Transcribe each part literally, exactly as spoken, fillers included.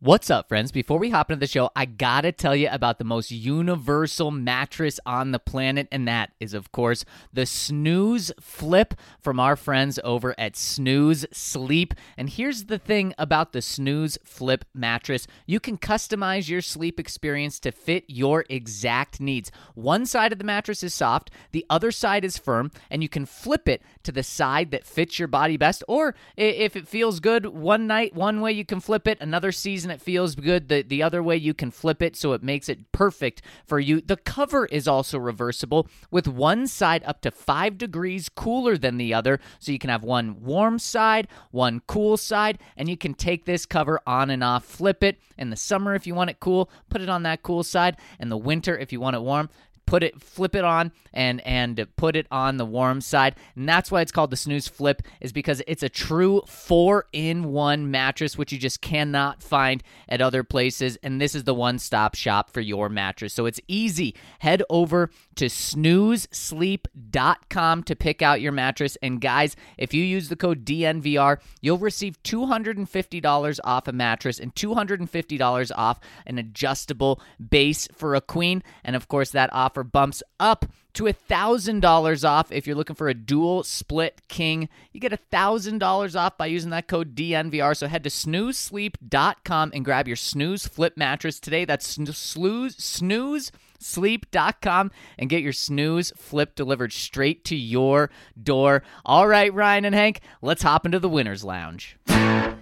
What's up, friends? Before we hop into the show, I gotta tell you about the most universal mattress on the planet, and that is, of course, the Snooze Flip from our friends over at Snooze Sleep. And here's the thing about the Snooze Flip mattress. You can customize your sleep experience to fit your exact needs. One side of the mattress is soft, the other side is firm, and you can flip it to the side that fits your body best. Or if it feels good one night, one way you can flip it, another season it feels good the, the other way you can flip it, so it makes it perfect for you. The cover is also reversible, with one side up to five degrees cooler than the other, so you can have one warm side, one cool side, and you can take this cover on and off, flip it in the summer if you want it cool, put it on that cool side, and the winter if you want it warm, put it, flip it on, and and put it on the warm side. And that's why it's called the Snooze Flip, is because it's a true four-in-one mattress, which you just cannot find at other places. And this is the one-stop shop for your mattress. So it's easy. Head over to snooze sleep dot com to pick out your mattress. And guys, if you use the code D N V R, you'll receive two hundred fifty dollars off a mattress and two hundred fifty dollars off an adjustable base for a queen. And of course, that offer bumps up to one thousand dollars off if you're looking for a dual split king. You get one thousand dollars off by using that code D N V R. So head to snooze sleep dot com and grab your Snooze Flip mattress today. That's snooze, snooze sleep dot com and get your Snooze Flip delivered straight to your door. All right, Ryan and Hank, let's hop into the Winner's Lounge. Number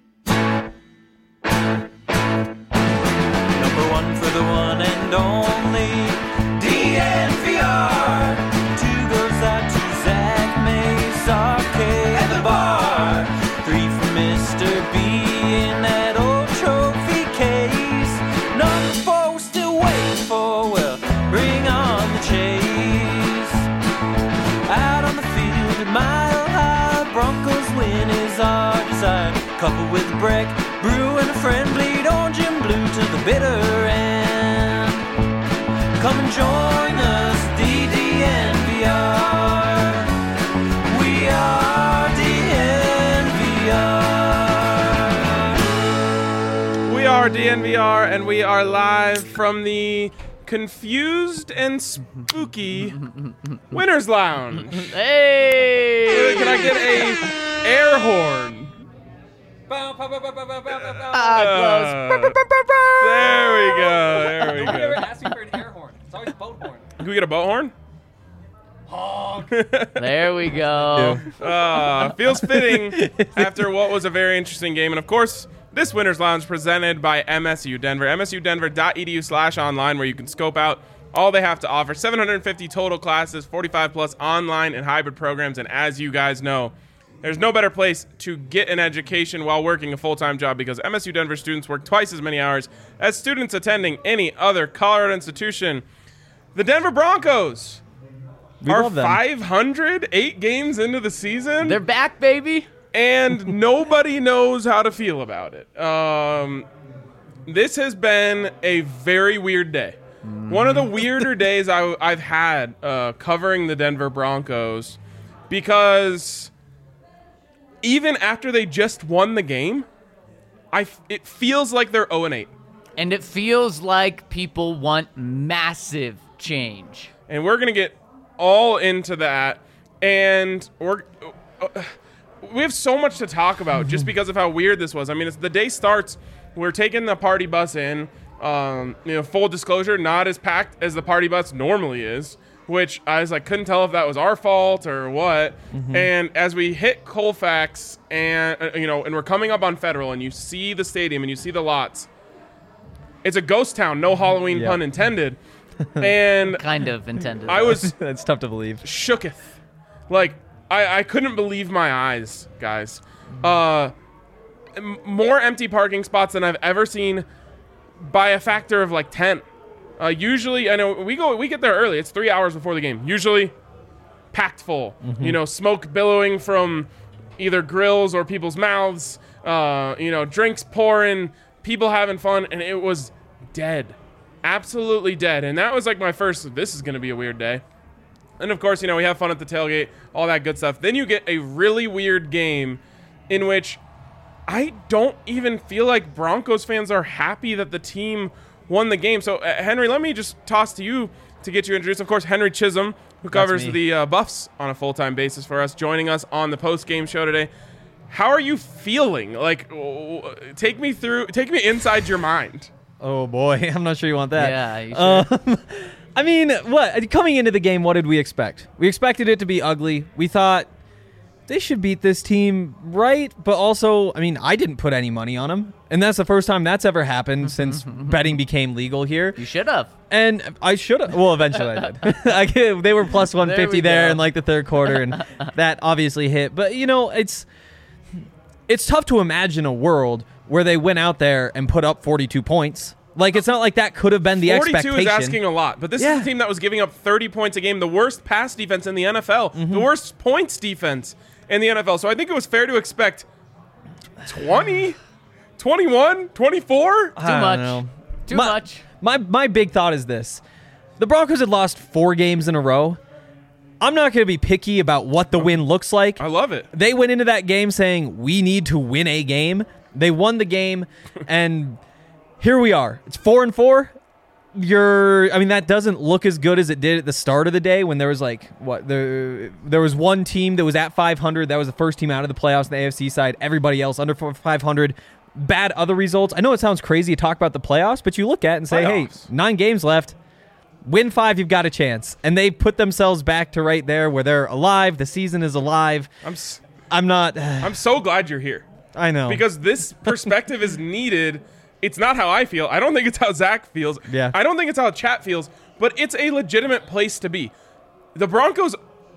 one for the one and only D N V R. Two goes out to Zach Mace, R K at the bar. Three for Mister B in that old trophy case. Number four we're still waiting for, well, bring on the chase. Out on the field at Mile High, Broncos win is our desire. Coupled with Breck, Brew and a friend, bleed orange and blue to the bitter end. Come and join us, D D N V R. We are D N V R. We are D N V R, and we are live from the confused and spooky Winner's Lounge. Hey! Can I get a air horn? Ah, close. There we go. There we Nobody ever go. asks me for an air horn. It's always boat horn. Can we get a boat horn? Honk. There we go. Uh, feels fitting after what was a very interesting game. And of course, this Winner's Lounge presented by M S U Denver. M S U Denver dot E D U slash online, where you can scope out all they have to offer. seven hundred fifty total classes, forty-five plus online and hybrid programs. And as you guys know, there's no better place to get an education while working a full-time job, because M S U Denver students work twice as many hours as students attending any other Colorado institution. The Denver Broncos We are love them. five hundred, eight games into the season, They're back, baby. and nobody knows how to feel about it. Um, this has been a very weird day. One of the weirder days I, I've had uh, covering the Denver Broncos, because even after they just won the game, I f- it feels like they're oh and eight. And it feels like people want massive change. And we're going to get all into that. And we're uh, we have so much to talk about just because of how weird this was. I mean, it's, the day starts, we're taking the party bus in. Um, you know, full disclosure, not as packed as the party bus normally is, which I was like, couldn't tell if that was our fault or what. Mm-hmm. And as we hit Colfax and, uh, you know, and we're coming up on Federal, and you see the stadium and you see the lots, it's a ghost town, no Halloween Yep. pun intended. And Kind of intended. I was That's tough to believe. shooketh. Like, I, I couldn't believe my eyes, guys. Uh, m- more empty parking spots than I've ever seen by a factor of like ten. Uh, usually, I know we go, we get there early. It's three hours before the game. Usually, packed full. Mm-hmm. You know, smoke billowing from either grills or people's mouths. Uh, you know, drinks pouring, people having fun, and it was dead, absolutely dead. And that was like my first. This is going to be a weird day. And of course, you know, we have fun at the tailgate, all that good stuff. Then you get a really weird game in which I don't even feel like Broncos fans are happy that the team won the game. So, uh, Henry, let me just toss to you to get you introduced. Of course, Henry Chisholm, who covers me. the uh, Buffs on a full-time basis for us, joining us on the post-game show today. How are you feeling? Like, w- w- take me through, take me inside your mind. Oh boy, I'm not sure you want that. Yeah, you sure? Um, I mean, what coming into the game, what did we expect? We expected it to be ugly. We thought they should beat this team, right? But also, I mean, I didn't put any money on them, and that's the first time that's ever happened since betting became legal here. You should have. And I should have. Well, eventually I did. I get- they were plus one fifty There we there go. in like the third quarter, and that obviously hit. But you know, it's it's tough to imagine a world where they went out there and put up forty-two points. Like, it's not like that could have been the forty-two expectation. is asking a lot, but this Yeah. is a team that was giving up thirty points a game, the worst pass defense in the N F L, Mm-hmm. the worst points defense in the N F L. So I think it was fair to expect twenty, twenty-one, twenty-four. I Too don't much. know. Too My- much. My my big thought is this: the Broncos had lost four games in a row. I'm not going to be picky about what the win looks like. I love it. They went into that game saying we need to win a game. They won the game, and here we are. It's four and four. You're, I mean, that doesn't look as good as it did at the start of the day when there was like what there there was one team that was at five hundred. That was the first team out of the playoffs on the A F C side. Everybody else under five hundred. Bad other results. I know it sounds crazy to talk about the playoffs, but you look at it and say, Playoffs. hey, nine games left. Win five, you've got a chance. And they put themselves back to right there where they're alive. The season is alive. I'm s- I'm not. I'm so glad you're here I know. because this perspective is needed. It's not how I feel. I don't think it's how Zach feels. Yeah. I don't think it's how Chat feels, but it's a legitimate place to be. The Broncos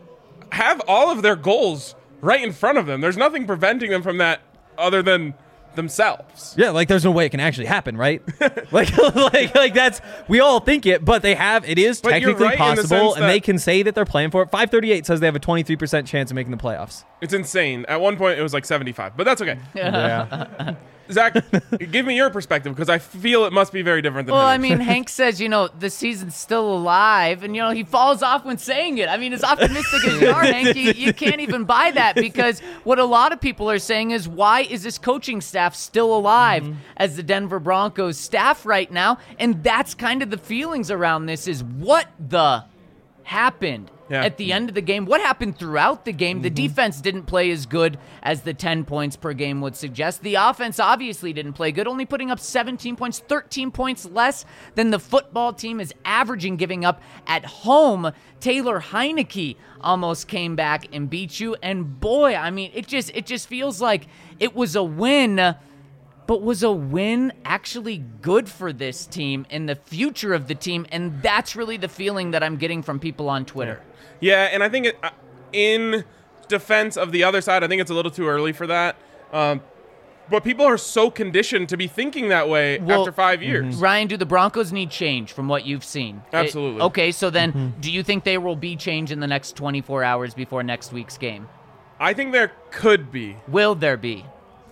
have all of their goals right in front of them. There's nothing preventing them from that other than themselves. Yeah, like there's no way it can actually happen, right? like, like, like that's we all think it, but they have. It is But you're technically right in the possible, sense and they that- can say that they're playing for it. five thirty-eight says they have a twenty-three percent chance of making the playoffs. It's insane. At one point, it was like seventy-five, but that's okay. Yeah, Zach, give me your perspective because I feel it must be very different than Well, I Henry's. mean, Hank says, you know, the season's still alive, and, you know, he falls off when saying it. I mean, as optimistic as you are, Hank, you, you can't even buy that because what a lot of people are saying is, why is this coaching staff still alive Mm-hmm. as the Denver Broncos staff right now? And that's kind of the feelings around this is what the happened Yeah. at the end of the game. What happened throughout the game? Mm-hmm. The defense didn't play as good as the ten points per game would suggest. The offense obviously didn't play good, only putting up seventeen points, thirteen points less than the football team is averaging giving up at home. Taylor Heineke almost came back and beat you. And boy, I mean, it just it just feels like it was a win. But was a win actually good for this team and the future of the team? And that's really the feeling that I'm getting from people on Twitter. Yeah, and I think it, uh, in defense of the other side, I think it's a little too early for that. Um, but people are so conditioned to be thinking that way Well, after five years. Ryan, do the Broncos need change from what you've seen? Absolutely. It- okay, so then do you think there will be change in the next twenty-four hours before next week's game? I think there could be. Will there be?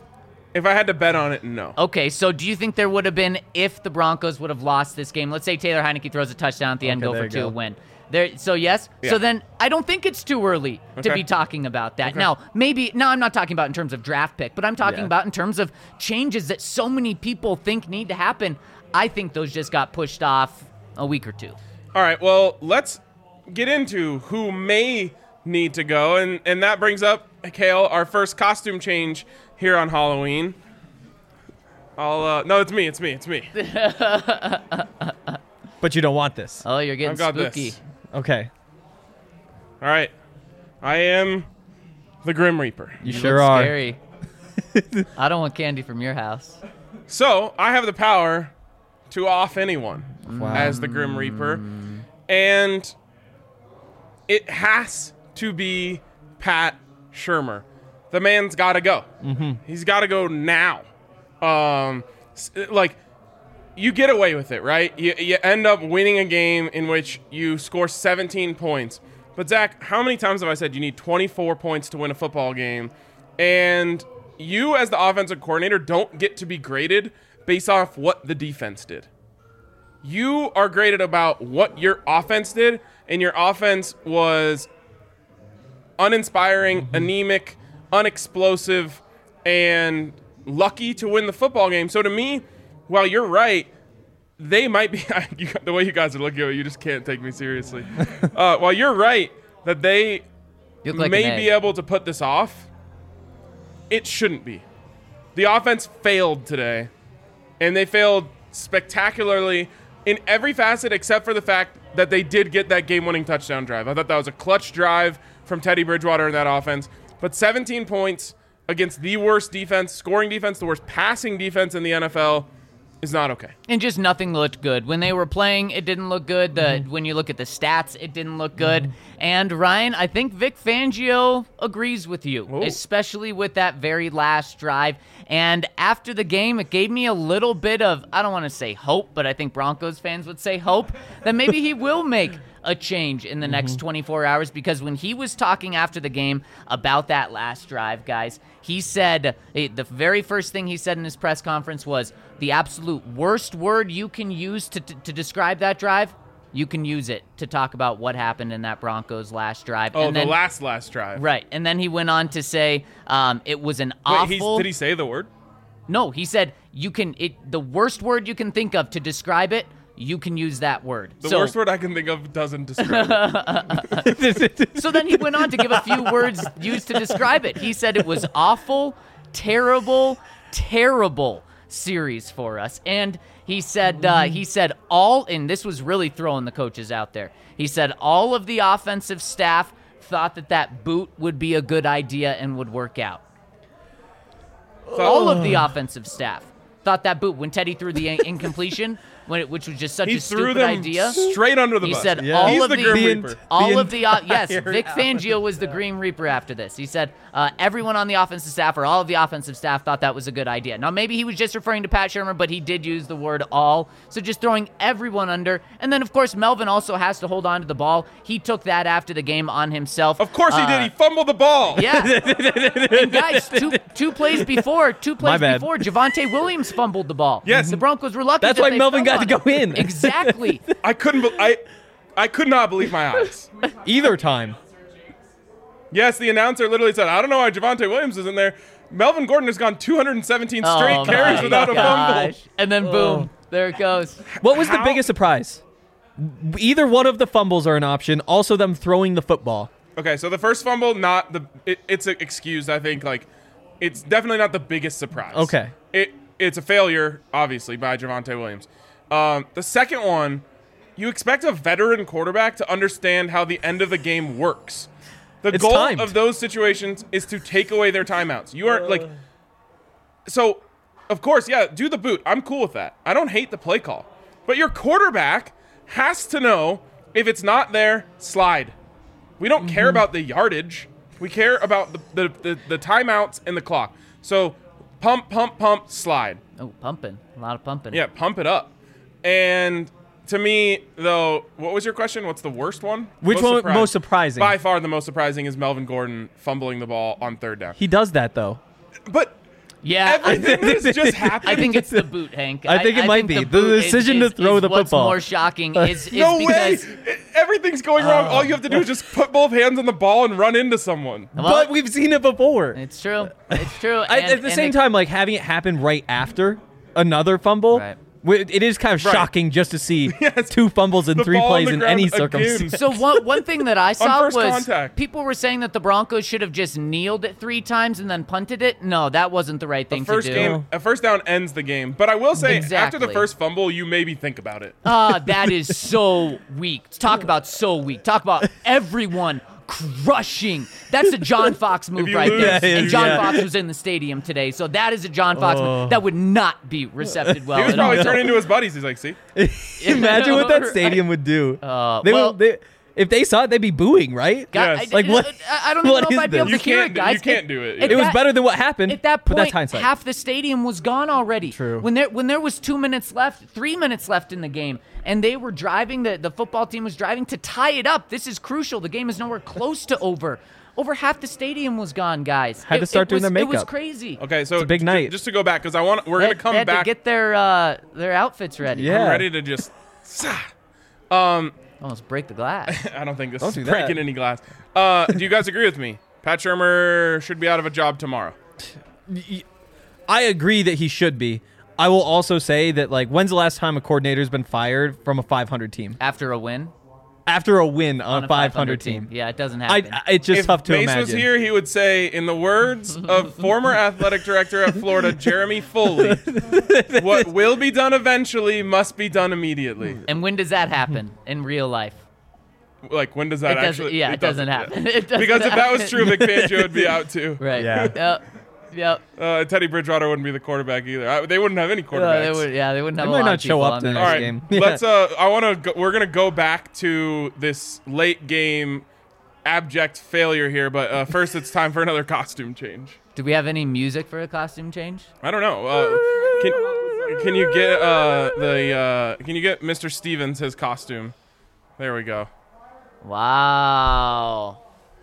If I had to bet on it, no. Okay, so do you think there would have been if the Broncos would have lost this game? Let's say Taylor Heineke throws a touchdown at the end, Okay, go there for you two, go. win. There, so yes. Yeah. So then I don't think it's too early to Okay. be talking about that. Okay. Now, maybe now I'm not talking about in terms of draft pick, but I'm talking Yeah. about in terms of changes that so many people think need to happen. I think those just got pushed off a week or two. All right, well, let's get into who may need to go. And, and that brings up, Kale, our first costume change here on Halloween. I'll, uh, no, it's me, it's me, it's me. but you don't want this. Oh, you're getting I've got spooky. this. Okay, All right. I am the Grim Reaper. you, You sure look are. Scary. I don't want candy from your house. So I have the power to off anyone Wow. as the Grim Reaper. And it has to be Pat Shurmur. The man's got to go. Mm-hmm. He's got to go now. Um, s- like, you get away with it, right? You, you end up winning a game in which you score seventeen points. But, Zach, how many times have I said you need twenty-four points to win a football game? And you, as the offensive coordinator, don't get to be graded based off what the defense did. You are graded about what your offense did, and your offense was uninspiring, anemic, unexplosive, and lucky to win the football game. So to me, while you're right, they might be you, the way you guys are looking at it, you just can't take me seriously. uh, while you're right that they You look like may an be egg. able to put this off, it shouldn't be. The offense failed today, and they failed spectacularly in every facet except for the fact that they did get that game-winning touchdown drive. I thought that was a clutch drive from Teddy Bridgewater in that offense. But seventeen points against the worst defense, scoring defense, the worst passing defense in the N F L is not okay. And just nothing looked good. When they were playing, it didn't look good. The Mm-hmm. When you look at the stats, it didn't look good. And Ryan, I think Vic Fangio agrees with you, Ooh. especially with that very last drive. And after the game, it gave me a little bit of, I don't want to say hope, but I think Broncos fans would say hope, that maybe he will make a change in the next twenty-four hours, because when he was talking after the game about that last drive, guys, he said eh, the very first thing he said in his press conference was the absolute worst word you can use to, to, to describe that drive. You can use it to talk about what happened in that Broncos last drive. Oh, and the then, last, last drive. right. And then he went on to say um, it was an Wait, he's, awful. did he say the word? No, he said you can. It the worst word you can think of to describe it. You can use that word. The so, worst word I can think of doesn't describe it. So then he went on to give a few words used to describe it. He said it was awful, terrible, terrible series for us. And he said uh, he said all, and this was really throwing the coaches out there. He said all of the offensive staff thought that that boot would be a good idea and would work out. All of the offensive staff thought that boot, when Teddy threw the in- incompletion, when it, which was just such He a threw stupid them idea. straight under the He bus. said Yeah. all He's of the the, Grim The Reaper. ent- all the of the uh, yes, entire Vic Fangio was the Green Reaper after this. He said uh, everyone on the offensive staff or all of the offensive staff thought that was a good idea. Now maybe he was just referring to Pat Shermer, but he did use the word all. So just throwing everyone under, and then of course Melvin also has to hold on to the ball. He took that after the game on himself. Of course he Uh, did. He fumbled the ball. Yeah. And guys, two two plays before, two My plays bad. before, Javonte Williams fumbled the ball. Yes. The Broncos were lucky. That's that why they Melvin fell got to on go it. in. Exactly. I couldn't. Be- I I could not believe my eyes. Either time. Yes, the announcer literally said, "I don't know why Javonte Williams isn't there." Melvin Gordon has gone two hundred seventeen straight Oh carries my without a fumble. gosh. And then boom, there it goes. What was the How- biggest surprise? Either one of the fumbles are an option. Also, them throwing the football. Okay, so the first fumble, not the. It, it's excused. I think like, it's definitely not the biggest surprise. Okay. It it's a failure, obviously, by Javonte Williams. Um, the second one, you expect a veteran quarterback to understand how the end of the game works. The It's goal timed. of those situations is to take away their timeouts. You are like, so, of course, yeah, do the boot. I'm cool with that. I don't hate the play call, but your quarterback has to know if it's not there, slide. We don't care about the yardage. We care about the, the, the, the timeouts and the clock. So, pump, pump, pump, slide. Oh, pumping. A lot of pumping. Yeah, pump it up. And to me, though, what was your question? What's the worst one? Which one most surprising? By far, the most surprising is Melvin Gordon fumbling the ball on third down. He does that though. But Yeah. I, everything that's just happened. I think it's the boot, Hank. I think it might be. The boot is- decision to is- throw is the what's football. more shocking is, is no way. because Everything's going wrong. All you have to do is just put both hands on the ball and run into someone. Well, but we've seen it before. it's true. It's true. I, And- at the and same it- time, like having it happen right after another fumble, Right. wi- it is kind of Right. shocking just to see Yes. two fumbles in The three ball on plays the in ground any again. circumstance. So one one thing that I saw first was contact. people were saying that the Broncos should have just kneeled it three times and then punted it. No, that wasn't the right thing The first to do. game, a first down ends the game. But I will say, after Exactly. the first fumble, you maybe think about it. Ah, that is so weak. Talk about so weak. Talk about everyone crushing. That's a John Fox move you right lose- there. Yeah, And John yeah. Fox was in the stadium today, so that is a John Fox move that would not be recepted well He was at all. probably So- turning to his buddies. He's like, "See, Imagine what that stadium would do. Uh, they, well- would, they, if they saw it, they'd be booing, right? God, Yes. I, Like, what- I, I don't even what know if is I'd be able this? to You hear can't it, do- guys. you can't At- do it. at It was that- better than what happened. At that but point, that's hindsight. half the stadium was gone already. True. When there when there was two minutes left, three minutes left in the game, and they were driving, the, the football team was driving to tie it up. This is crucial. The game is nowhere close to over. Over half the stadium was gone, guys. Had to start it doing was, their It was makeup. crazy. okay." So It's a big ju- night. Just to go back, because I want, we're They, gonna come they had back. to get their uh, their outfits ready. Yeah. I'm ready to just. Um, Almost break the glass. I don't think this Don't is do that. breaking any glass. Uh, do you guys agree with me? Pat Shermer should be out of a job tomorrow. I agree that he should be. I will also say that, like, when's the last time a coordinator's been fired from a five hundred team? After a win? After a win on, On a five hundred team. Yeah, it doesn't happen. I, it's just if tough to Mace imagine. was here, he would say, in the words of former athletic director at Florida, Jeremy Foley, what will be done eventually must be done immediately. and when does that happen in real life? Like, when does that It doesn't- actually? yeah, it doesn't happen. It doesn't because if that was happen. true, Vic Fangio would be out too. Right. Yeah. Yep. Yep. Uh, Teddy Bridgewater wouldn't be the quarterback either. I, they wouldn't have any Uh, quarterbacks. they would, yeah, they wouldn't They have a might lot not of show people up on the there. next All right, game. Yeah. let's. Uh, I want to. Go, we're gonna go back to this late game abject failure here, but uh, first it's time for another costume change. Do we have any music for a costume change? I don't know. Uh, can can you get uh, the uh, can you get Mister Stevens his costume? There we go. Wow.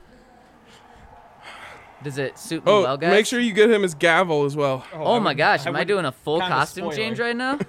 Does it suit me Oh, well, guys? make sure you get him his gavel as well. Oh my gosh, am I, would doing a full kinda costume spoil change it. right now?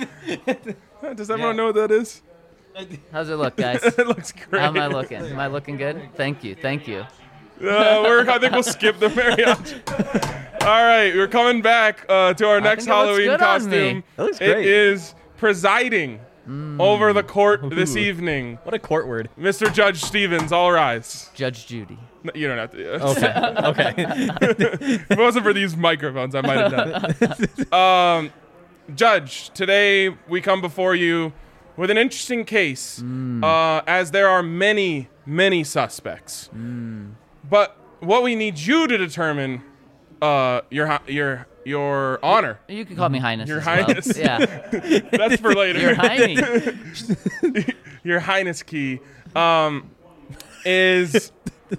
Does everyone know what that is? How's it look, guys? It looks great. How am I looking? Am I looking good? Thank you, thank you. Uh, we're, I think we'll skip the mariachi. All right, we're coming back uh, to our next think it looks Halloween good on costume. me. That looks It great. is presiding over the court this Ooh. evening. What a court word. Mister Judge Stevens, all rise. Judge Judy. No, you don't have to. Yeah. Okay. Okay. If it wasn't for these microphones, I might have done it. Um, Judge, today we come before you with an interesting case, uh, as there are many, many suspects. But what we need you to determine, uh, your hi- your your honor. You can call me Highness. Your as well. Highness. Yeah. That's for later. Your Highness. Your Highness key, um, is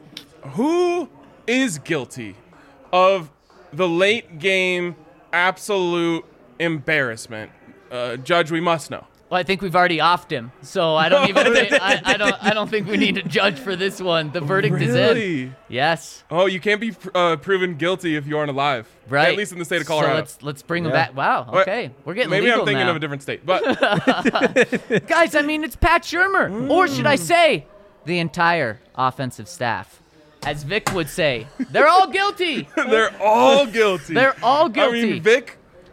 who is guilty of the late game absolute embarrassment? Uh, Judge, we must know. Well, I think we've already offed him, so I don't even. think, I, I don't. I don't think we need to judge for this one. The verdict is in. Really? Yes. Oh, you can't be uh, proven guilty if you aren't alive. Right. At least in the state of Colorado. So let's let's bring him Yeah. back. Wow. Wait, Okay. We're getting Maybe legal I'm thinking now. of a different state, but Guys, I mean, it's Pat Shermer, or should I say, the entire offensive staff. As Vic would say, they're all guilty. they're all guilty. They're all guilty. I mean, Vic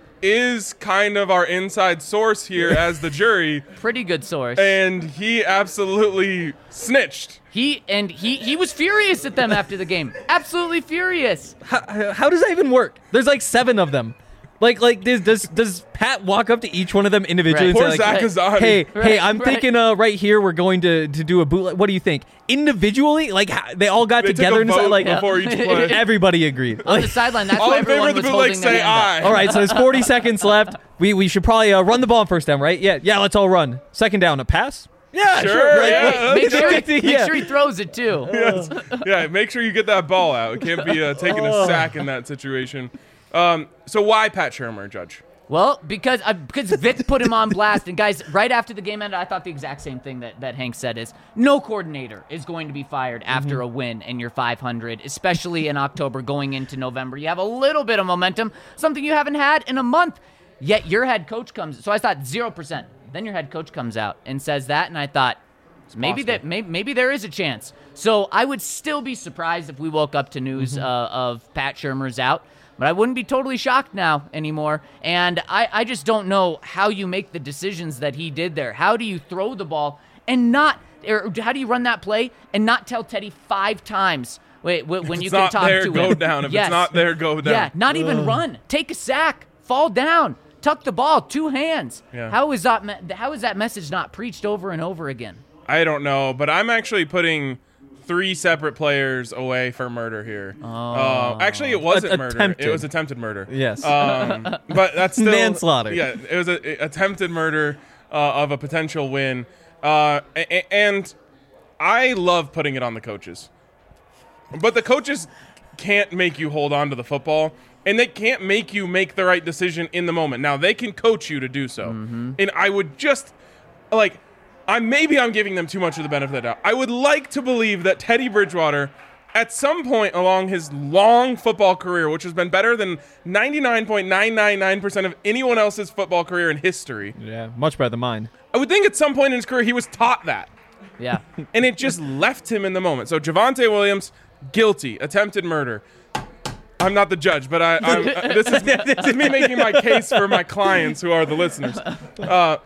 is kind of our inside source here as the jury, Pretty good source. and he absolutely snitched. He and he he was furious at them after the game. Absolutely furious. how, how does that even work? There's like seven of them. Like, like does does, does Pat walk up to each one of them individually Right. and Poor say, Zach like, Azadi. hey, Right, hey, I'm right. thinking uh, right here we're going to, to do a bootleg. What do you think? Individually? Like, how, they all got They together took a and decided, vote like, before each play. everybody agreed. On the Like, sideline, that's All why in favor everyone of the was bootleg, holding their say hand aye. up. all right, so there's forty seconds left. We we should probably uh, run the ball on first down, right? Yeah, yeah. Let's all run. Second down, a pass. Yeah, Sure, sure. right, yeah, right. that's Make sure, good. he, make Yeah. sure he throws it too. Yes. Yeah, make sure you get that ball out. It can't be uh, taking a sack in that situation. Um, so why Pat Shermer, Judge? Well, because uh, because Vic put him on blast, and guys, right after the game ended, I thought the exact same thing that, that Hank said is no coordinator is going to be fired after a win in your five hundred, especially in October going into November. You have a little bit of momentum, something you haven't had in a month. Yet your head coach comes. So I thought zero percent. Then your head coach comes out and says that, and I thought maybe possible. that maybe, maybe there is a chance. So I would still be surprised if we woke up to news uh, of Pat Shermer's out. But I wouldn't be totally shocked now anymore. And I, I just don't know how you make the decisions that he did there. How do you throw the ball and not, or how do you run that play and not tell Teddy five times wait, wh- when you it's can not talk there, to go him? down. If Yes. it's not there, go down. Yeah, not even run. Take a sack. Fall down. Tuck the ball. Two hands. Yeah. How is that? Me- how is that message not preached over and over again? I don't know, but I'm actually putting three separate players away for murder here. Oh. Uh, actually, it wasn't Att- murder. attempted. It was attempted murder. Yes. Um, but that's still Manslaughter. Yeah, it was a, a attempted murder uh, of a potential win. Uh, a- a- and I love putting it on the coaches, but the coaches can't make you hold on to the football, and they can't make you make the right decision in the moment. Now they can coach you to do so, and I would just like. I maybe I'm giving them too much of the benefit of the doubt. I would like to believe that Teddy Bridgewater, at some point along his long football career, which has been better than ninety-nine point nine nine nine percent of anyone else's football career in history, Yeah, much better than mine. I would think at some point in his career he was taught that. Yeah. And it just left him in the moment. So Javonte Williams, guilty, attempted murder. I'm not the judge, but I, I'm, uh, this, is, this is me making my case for my clients who are the listeners. Uh,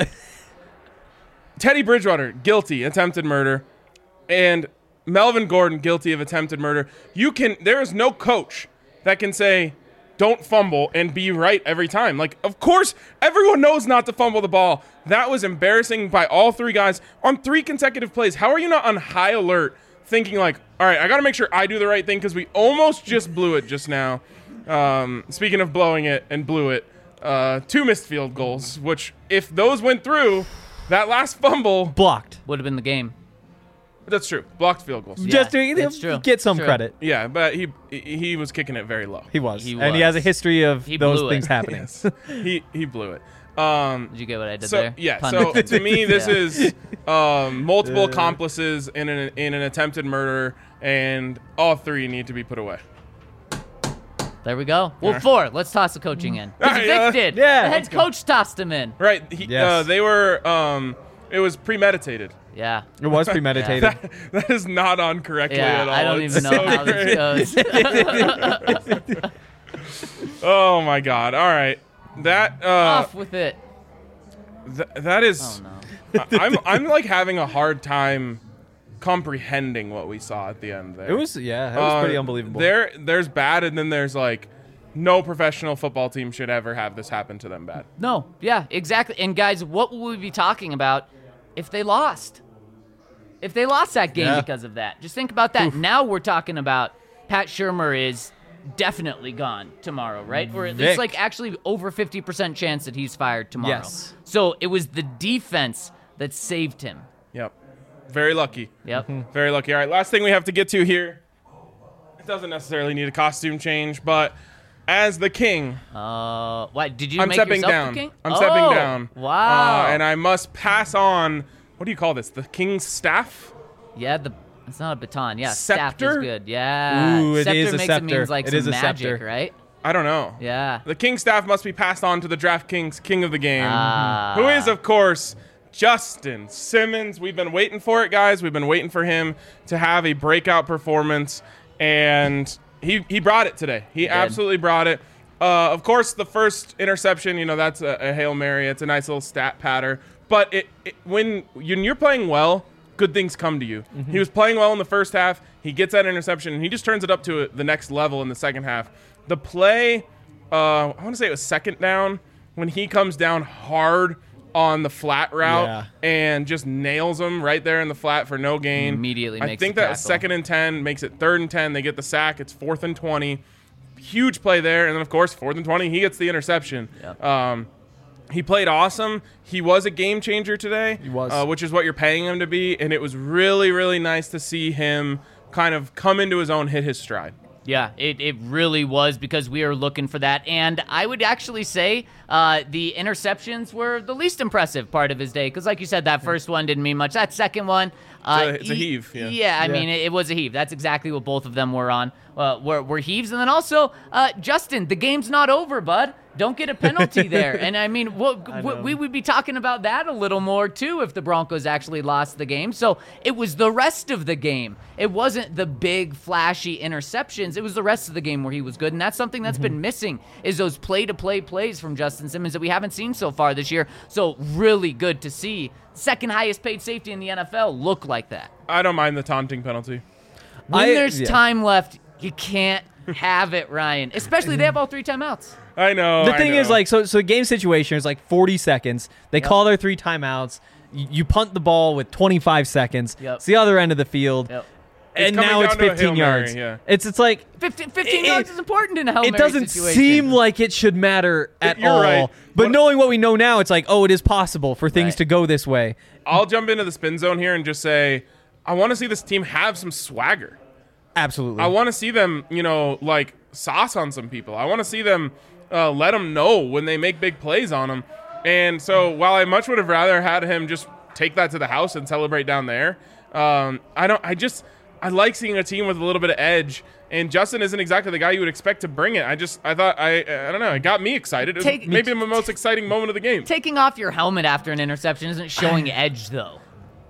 Teddy Bridgewater, guilty, attempted murder, and Melvin Gordon, guilty of attempted murder. You can. There is no coach that can say, don't fumble and be right every time. Like, of course, everyone knows not to fumble the ball. That was embarrassing by all three guys on three consecutive plays. How are you not on high alert thinking like, all right, I got to make sure I do the right thing because we almost just blew it just now. Um, speaking of blowing it and blew it, uh, two missed field goals, which if those went through, that last fumble. Blocked. Would have been the game. That's true. Blocked field goals. Yeah, Just to that's true. get some True. credit. Yeah, but he he was kicking it very low. He was. He and he has a was. history of He those blew it. things happening. Yes. he he blew it. Um, Did you get what I did so there? yeah, Pun so intended. to me, this Yeah. is um, multiple accomplices in an in an attempted murder, and all three need to be put away. There we go. Well, four. Let's toss the coaching in. 'Cause All right, Vic yeah. did. Yeah. The head coach tossed him in. Right? He, Yes. uh, they were. Um, it was premeditated. Yeah. It was premeditated. That, that is not on correctly Yeah, at all. I don't It's even know so how great. this goes. Oh my god! All right, that uh, Off with it. th- that is. Oh, no. I- I'm I'm like having a hard time comprehending what we saw at the end there. It was, yeah, it was Uh, pretty unbelievable. There, there's bad, and then there's like, no professional football team should ever have this happen to them bad. No. Yeah, exactly. And, guys, what will we be talking about if they lost? If they lost that game Yeah. because of that. Just think about that. Now we're talking about Pat Shurmur is definitely gone tomorrow, right? Or Vic. it's like actually over fifty percent chance that he's fired tomorrow. Yes. So it was the defense that saved him. Yep, very lucky. Yep. Very lucky. All right, last thing we have to get to here. It doesn't necessarily need a costume change, but as the king, Uh, what did you I'm make stepping yourself down. the king? I'm Oh, stepping down. Wow. Uh, and I must pass on. What do you call this? The king's staff? Yeah, the it's not a baton. Yeah, staff is Scepter? good. Yeah, Ooh, it scepter is a makes scepter. it means like It some is a magic, scepter. right? I don't know. Yeah. The king's staff must be passed on to the DraftKings king of the game, Ah. who is, of course, Justin Simmons. We've been waiting for it, guys. We've been waiting for him to have a breakout performance, and he he brought it today. He, did. absolutely brought it. Uh, of course, the first interception, you know, that's a, a Hail Mary. It's a nice little stat patter. But it, it when, when you're playing well, good things come to you. He was playing well in the first half. He gets that interception, and he just turns it up to the next level in the second half. The play, uh, I want to say it was second down, when he comes down hard on the flat route Yeah. and just nails him right there in the flat for no gain. Immediately I makes think the that was tackle. second and ten, makes it third and ten. They get the sack. It's fourth and twenty. Huge play there. And then, of course, fourth and twenty, he gets the interception. Yep. Um, he played awesome. He was a game changer today. He was. Uh, which is what you're paying him to be. And it was really, really nice to see him kind of come into his own, hit his stride. Yeah, it, it really was because we were looking for that. And I would actually say uh, the interceptions were the least impressive part of his day because, like you said, that first one didn't mean much. That second one, uh, It's a- it's a he- heave, yeah. I Yeah. mean, it, it was a heave. That's exactly what both of them were on. Uh, were, were heaves. And then also, uh, Justin, the game's not over, bud. Don't get a penalty there. And I mean, what, I what, know. we would be talking about that a little more too if the Broncos actually lost the game. So it was the rest of the game. It wasn't the big flashy interceptions. It was the rest of the game where he was good. And that's something that's been missing is those play-to-play plays from Justin Simmons that we haven't seen so far this year. So really good to see second highest paid safety in the N F L look like that. I don't mind the taunting penalty. When I- there's yeah. time left, you can't have it, Ryan. Especially they have all three timeouts. I know. The I thing is, know. like, so so the game situation is like forty seconds. They call their three timeouts. You, you punt the ball with twenty-five seconds. Yep. It's the other end of the field. Yep. And coming now it's down to a Hail fifteen Mary, yards. yeah. It's it's like fifteen, fifteen It- yards is important in a Hail it Mary doesn't situation. seem like it should matter at You're all. right. But What- knowing what we know now, it's like, oh, it is possible for things Right. to go this way. I'll jump into the spin zone here and just say, I want to see this team have some swagger. Absolutely. I want to see them, you know, like sauce on some people. I want to see them uh, let them know when they make big plays on them. And so while I much would have rather had him just take that to the house and celebrate down there, um, I don't. I just I like seeing a team with a little bit of edge. And Justin isn't exactly the guy you would expect to bring it. I just I thought I I don't know. It got me excited. It was Take- maybe the most exciting moment of the game. Taking off your helmet after an interception isn't showing edge, though.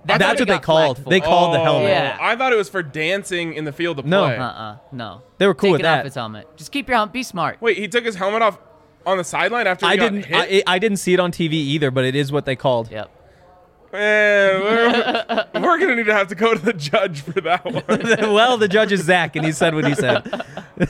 That's, That's what, what they got called. flagged for. They called the Oh, helmet. Yeah. I thought it was for dancing in the field of No. play. Uh-uh. No. They were cool Take with it that. off his helmet. Just keep your helmet. Be smart. Wait, he took his helmet off on the sideline after he I got didn't. hit? I, I didn't see it on T V either, but it is what they called. Yep. Man, we're, we're gonna need to have to go to the judge for that one. Well, the judge is Zach, and he said what he said.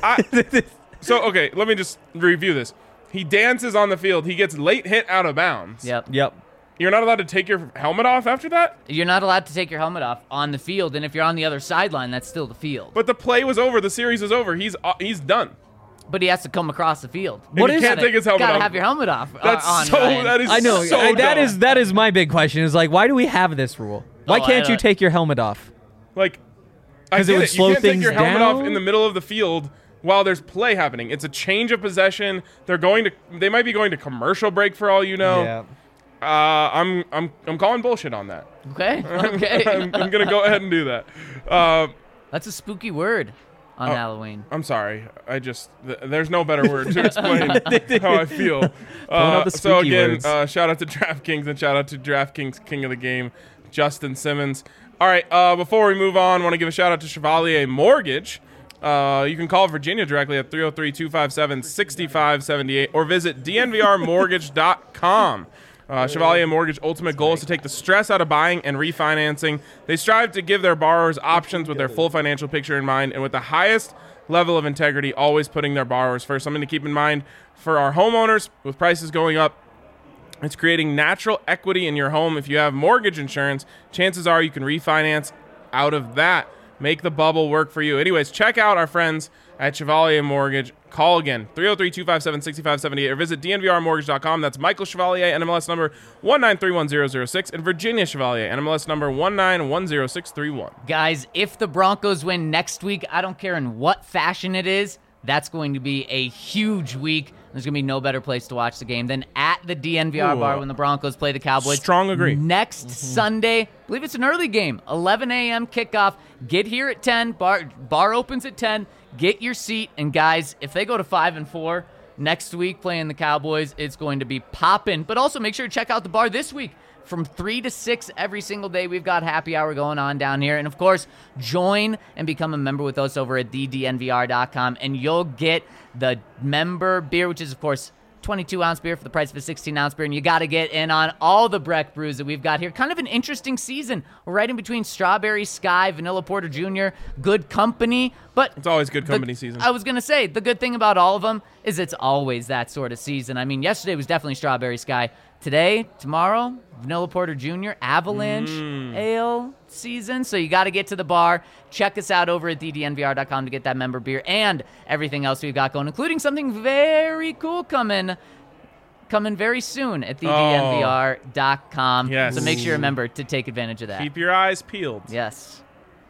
I, so okay, let me just review this. He dances on the field. He gets late hit out of bounds. Yep. Yep. You're not allowed to take your helmet off after that? You're not allowed to take your helmet off on the field, and if you're on the other sideline, that's still the field. But the play was over. The series was over. He's uh, he's done. But he has to come across the field. What he is- can't take his helmet Gotta off. have your helmet off. uh, That's on, so. Ryan. That is. I know. So I- that dumb. is that is my big question. Is like, why do we have this rule? Why Oh, I can't you don't- take your helmet off? like. I 'Cause it get would it. slow You can't take things your helmet off down? in the middle of the field while there's play happening. It's a change of possession. They're going to. They might be going to commercial break for all you know. Uh, I'm I'm I'm calling bullshit on that. Okay. Okay. I'm, I'm gonna go ahead and do that. Uh, That's a spooky word on Oh. Halloween. I'm sorry. I just th- there's no better word to explain how I feel. out Uh, the so spooky again, words. uh, shout out to DraftKings and shout out to DraftKings King of the Game, Justin Simmons. All right. Uh, before we move on, I want to give a shout out to Chevalier Mortgage. Uh, you can call Virginia directly at three oh three, two five seven, six five seven eight or visit d n v r mortgage dot com. Uh, Chevalier Mortgage ultimate goal is to take the stress out of buying and refinancing. They strive to give their borrowers options with their full financial picture in mind and with the highest level of integrity, always putting their borrowers first. Something to keep in mind for our homeowners with prices going up. It's creating natural equity in your home. If you have mortgage insurance, chances are you can refinance out of that. Make the bubble work for you. Anyways, check out our friends at Chevalier Mortgage. Call again, three oh three, two five seven, six five seven eight or visit d n v r mortgage dot com. That's Michael Chevalier, N M L S number one nine three one zero zero six, and Virginia Chevalier, N M L S number one nine one zero six three one. Guys, if the Broncos win next week, I don't care in what fashion it is, that's going to be a huge week. There's going to be no better place to watch the game than at the D N V R Ooh. bar when the Broncos play the Cowboys. Strong agree. Next Sunday, I believe it's an early game, eleven a.m. kickoff. Get here at ten. Bar bar opens at ten. Get your seat. And guys, if they go to five and four next week playing the Cowboys, it's going to be popping. But also make sure to check out the bar this week. From three to six every single day, we've got happy hour going on down here. And, of course, join and become a member with us over at the d n v r dot com, and you'll get the member beer, which is, of course, twenty-two ounce beer for the price of a sixteen ounce beer. And you got to get in on all the Breck brews that we've got here. Kind of an interesting season. We're right in between Strawberry Sky, Vanilla Porter Junior, Good Company. But It's always good the- company season. I was going to say, the good thing about all of them is it's always that sort of season. I mean, yesterday was definitely Strawberry Sky. Today, tomorrow, Vanilla Porter Junior, Avalanche Mm. Ale season. So you got to get to the bar. Check us out over at d d n v r dot com to get that member beer and everything else we've got going, including something very cool coming coming very soon at the d n v r dot com. Yes. So make sure you remember to take advantage of that. Keep your eyes peeled. Yes.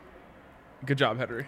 Good job, Henry.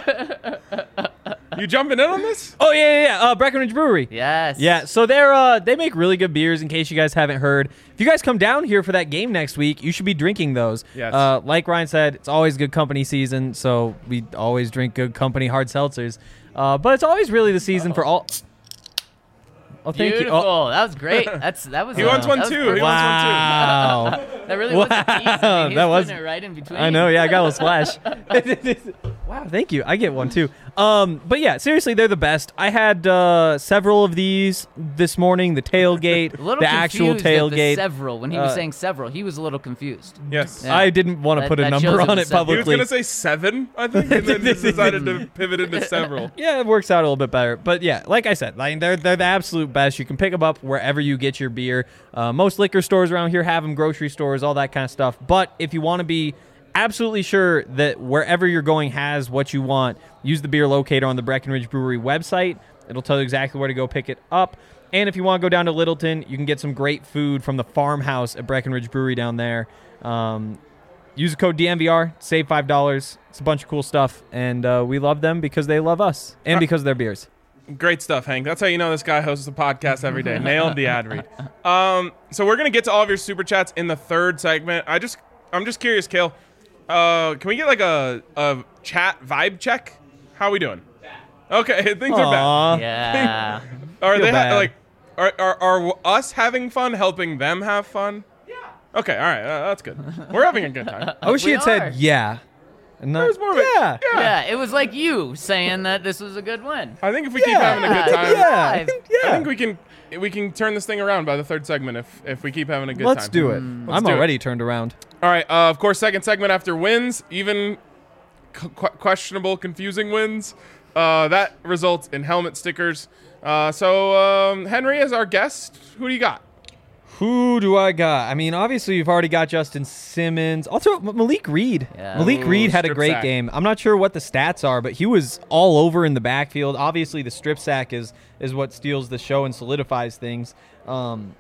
You jumping in on this? Oh yeah, yeah, yeah. Uh, Breckenridge Brewery. Yes. Yeah, so they're uh they make really good beers. In case you guys haven't heard, if you guys come down here for that game next week, you should be drinking those. Yes. Uh, like Ryan said, it's always good company season, so we always drink good company hard seltzers. Uh, but it's always really the season for all. Oh, thank Beautiful. you. Oh, That was great. That's that was. He uh, wants one that was too. He perfect. wants one too. wow. That really was a tease. I mean, Wow, he's that was- putting it right in between. I know, yeah, I got a little splash. Wow, thank you. I get one too. Um, but yeah, seriously, they're the best. I had uh, several of these this morning. The tailgate, A little the actual confused at the tailgate. several. When he was Uh, saying several, he was a little confused. Yes. Yeah. I didn't want to That- put a that number shows it on was it several. He was publicly. going to say seven, I think, and then just decided to pivot into several. Yeah, it works out a little bit better. But yeah, like I said, like they're they're the absolute best. You can pick them up wherever you get your beer. Uh, most liquor stores around here have them, grocery stores, all that kind of stuff. But if you want to be absolutely sure that wherever you're going has what you want, use the beer locator on the Breckenridge Brewery website. It'll tell you exactly where to go pick it up. And if you want to go down to Littleton, you can get some great food from the farmhouse at Breckenridge Brewery down there. Um, use the code D N V R, save five dollars. It's a bunch of cool stuff, and uh, we love them because they love us and because of their beers. Great stuff, Hank. That's how you know this guy hosts a podcast every day. Nailed the ad read. Um, so we're gonna get to all of your super chats in the third segment. I just, I'm just curious, Kale. Uh, can we get like a a chat vibe check? How are we doing? Okay, things are bad. Aw. Yeah. Are Feel they ha- bad. like, are, are are us having fun helping them have fun? Okay, all right, uh, that's good. We're having a good time. I wish We he had are. said yeah. And not, It was more of a- yeah. yeah. Yeah, it was like you saying that this was a good win. I think if we keep Yeah. having a good time, Yeah. I Five. think, yeah. I think we can we can turn this thing around by the third segment if if we keep having a good Let's time. do it. Let's I'm do it. already turned around. All right. Uh, of course, second segment after wins, even c- qu- questionable, confusing wins. Uh, that results in helmet stickers. Uh, so um, Henry is our guest. Who do you got? Who do I got? I mean, obviously, you've already got Justin Simmons. Also, M- Malik Reed. Yeah. Malik Ooh, Reed had a strip great sack. game. I'm not sure what the stats are, but he was all over in the backfield. Obviously, the strip sack is is what steals the show and solidifies things. Um,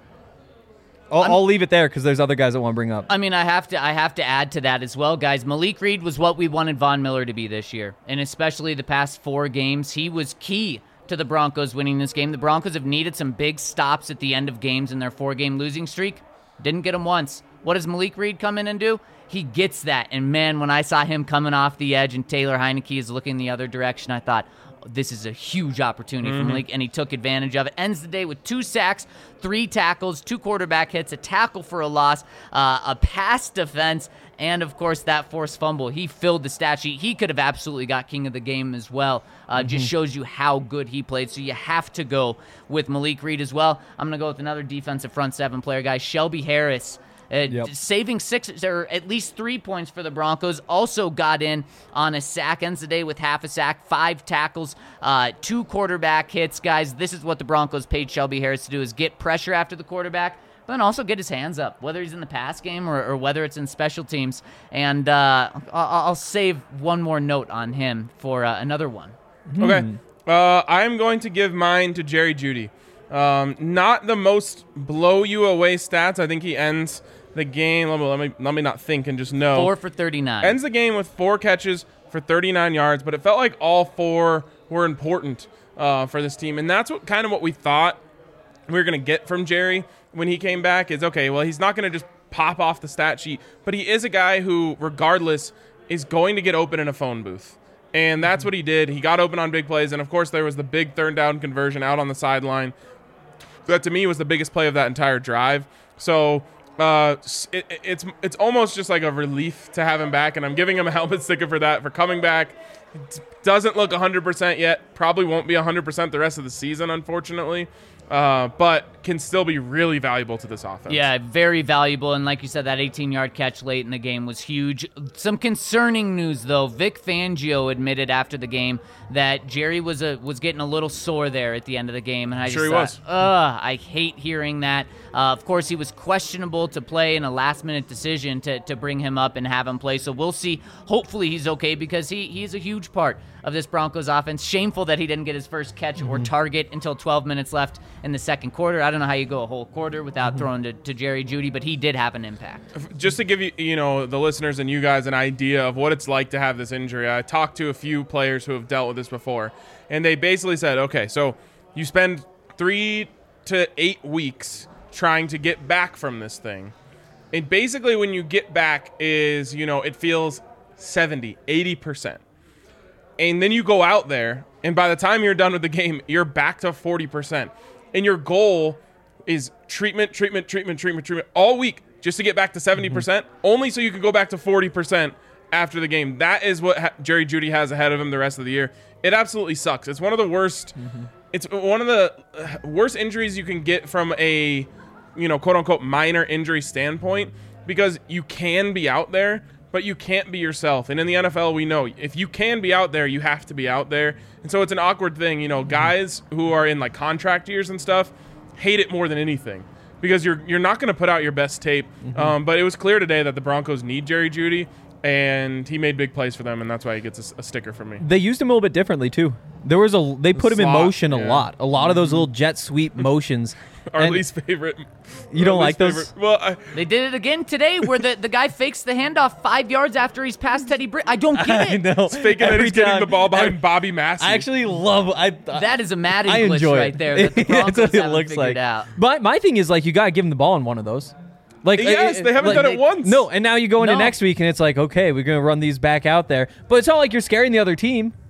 I'll, I'll leave it there because there's other guys that want to bring up. I mean, I have to I have to add to that as well, guys. Malik Reed was what we wanted Von Miller to be this year, and especially the past four games, he was key to the Broncos winning this game. The Broncos have needed some big stops at the end of games in their four-game losing streak. Didn't get them once. What does Malik Reed come in and do? He gets that, and man, when I saw him coming off the edge and Taylor Heineke is looking the other direction, I thought, this is a huge opportunity Mm-hmm. for Malik, and he took advantage of it. Ends the day with two sacks, three tackles, two quarterback hits, a tackle for a loss, uh, a pass defense, and, of course, that forced fumble. He filled the stat sheet. He could have absolutely got king of the game as well. Uh, Mm-hmm. Just shows you how good he played, so you have to go with Malik Reed as well. I'm going to go with another defensive front seven player, guys, Shelby Harris. Uh, Yep. Saving six or at least three points for the Broncos. Also got in on a sack. Ends the day with half a sack, five tackles, uh, two quarterback hits. Guys, this is what the Broncos paid Shelby Harris to do: is get pressure after the quarterback, but then also get his hands up, whether he's in the pass game or, or whether it's in special teams. And uh, I'll, I'll save one more note on him for uh, another one. Okay. Uh, I'm going to give mine to Jerry Jeudy. Um, not the most blow you away stats. I think he ends the game. Let me, let me, let me not think and just know. Four for thirty-nine. Ends the game with four catches for thirty-nine yards, but it felt like all four were important uh, for this team. And that's what kind of what we thought we were going to get from Jerry when he came back is, okay, well, he's not going to just pop off the stat sheet, but he is a guy who, regardless, is going to get open in a phone booth. And that's what he did. He got open on big plays. And, of course, there was the big third down conversion out on the sideline. That, to me, was the biggest play of that entire drive. So uh, it, it's it's almost just like a relief to have him back. And I'm giving him a helmet sticker for that, for coming back. It doesn't look one hundred percent yet. Probably won't be one hundred percent the rest of the season, unfortunately. Uh, but can still be really valuable to this offense. Yeah, very valuable. And like you said, that eighteen-yard catch late in the game was huge. Some concerning news, though. Vic Fangio admitted after the game that Jerry was a, was getting a little sore there at the end of the game. And I Sure just he was. thought, ugh, I hate hearing that. Uh, of course, he was questionable to play in a last-minute decision to, to bring him up and have him play. So we'll see. Hopefully he's okay because he, he's a huge part of this Broncos offense. Shameful that he didn't get his first catch or target until twelve minutes left in the second quarter. I don't know how you go a whole quarter without throwing to, to Jerry Jeudy, but he did have an impact. Just to give you, you know, the listeners and you guys an idea of what it's like to have this injury, I talked to a few players who have dealt with this before, and they basically said, okay, so you spend three to eight weeks trying to get back from this thing. And basically when you get back is, you know, it feels seventy, eighty percent. And then you go out there, and by the time you're done with the game, you're back to forty percent. And your goal is treatment, treatment, treatment, treatment, treatment all week just to get back to seventy percent, mm-hmm. only so you can go back to forty percent after the game. That is what ha- Jerry Jeudy has ahead of him the rest of the year. It absolutely sucks. It's one of the worst mm-hmm. it's one of the worst injuries you can get from a, you know, quote unquote minor injury standpoint, because you can be out there, but you can't be yourself. And in the N F L, we know if you can be out there, you have to be out there. And so it's an awkward thing. You know, guys who are in like contract years and stuff hate it more than anything because you're you're not going to put out your best tape. Mm-hmm. Um, but it was clear today that the Broncos need Jerry Jeudy, and he made big plays for them, and that's why he gets a, a sticker from me. They used him a little bit differently too. There was a they put him in slot, motion a yeah. lot. A lot of those little jet sweep motions. Our And least favorite. You don't our like least those? favorite- Well, I, They did it again today where the, the guy fakes the handoff five yards after he's past Teddy Britt. I don't get I it. know. faking that Every he's getting time- the ball behind every- Bobby Massey. I actually love. I That is a Madden I glitch enjoy right it. there that the Broncos That's what it haven't looks figured like. out. My my thing is like you gotta give him the ball in one of those. Like Yes, uh, they haven't like, done it they- once. No, and now you go into No. next week and it's like okay, we're gonna run these back out there, but it's not like you're scaring the other team.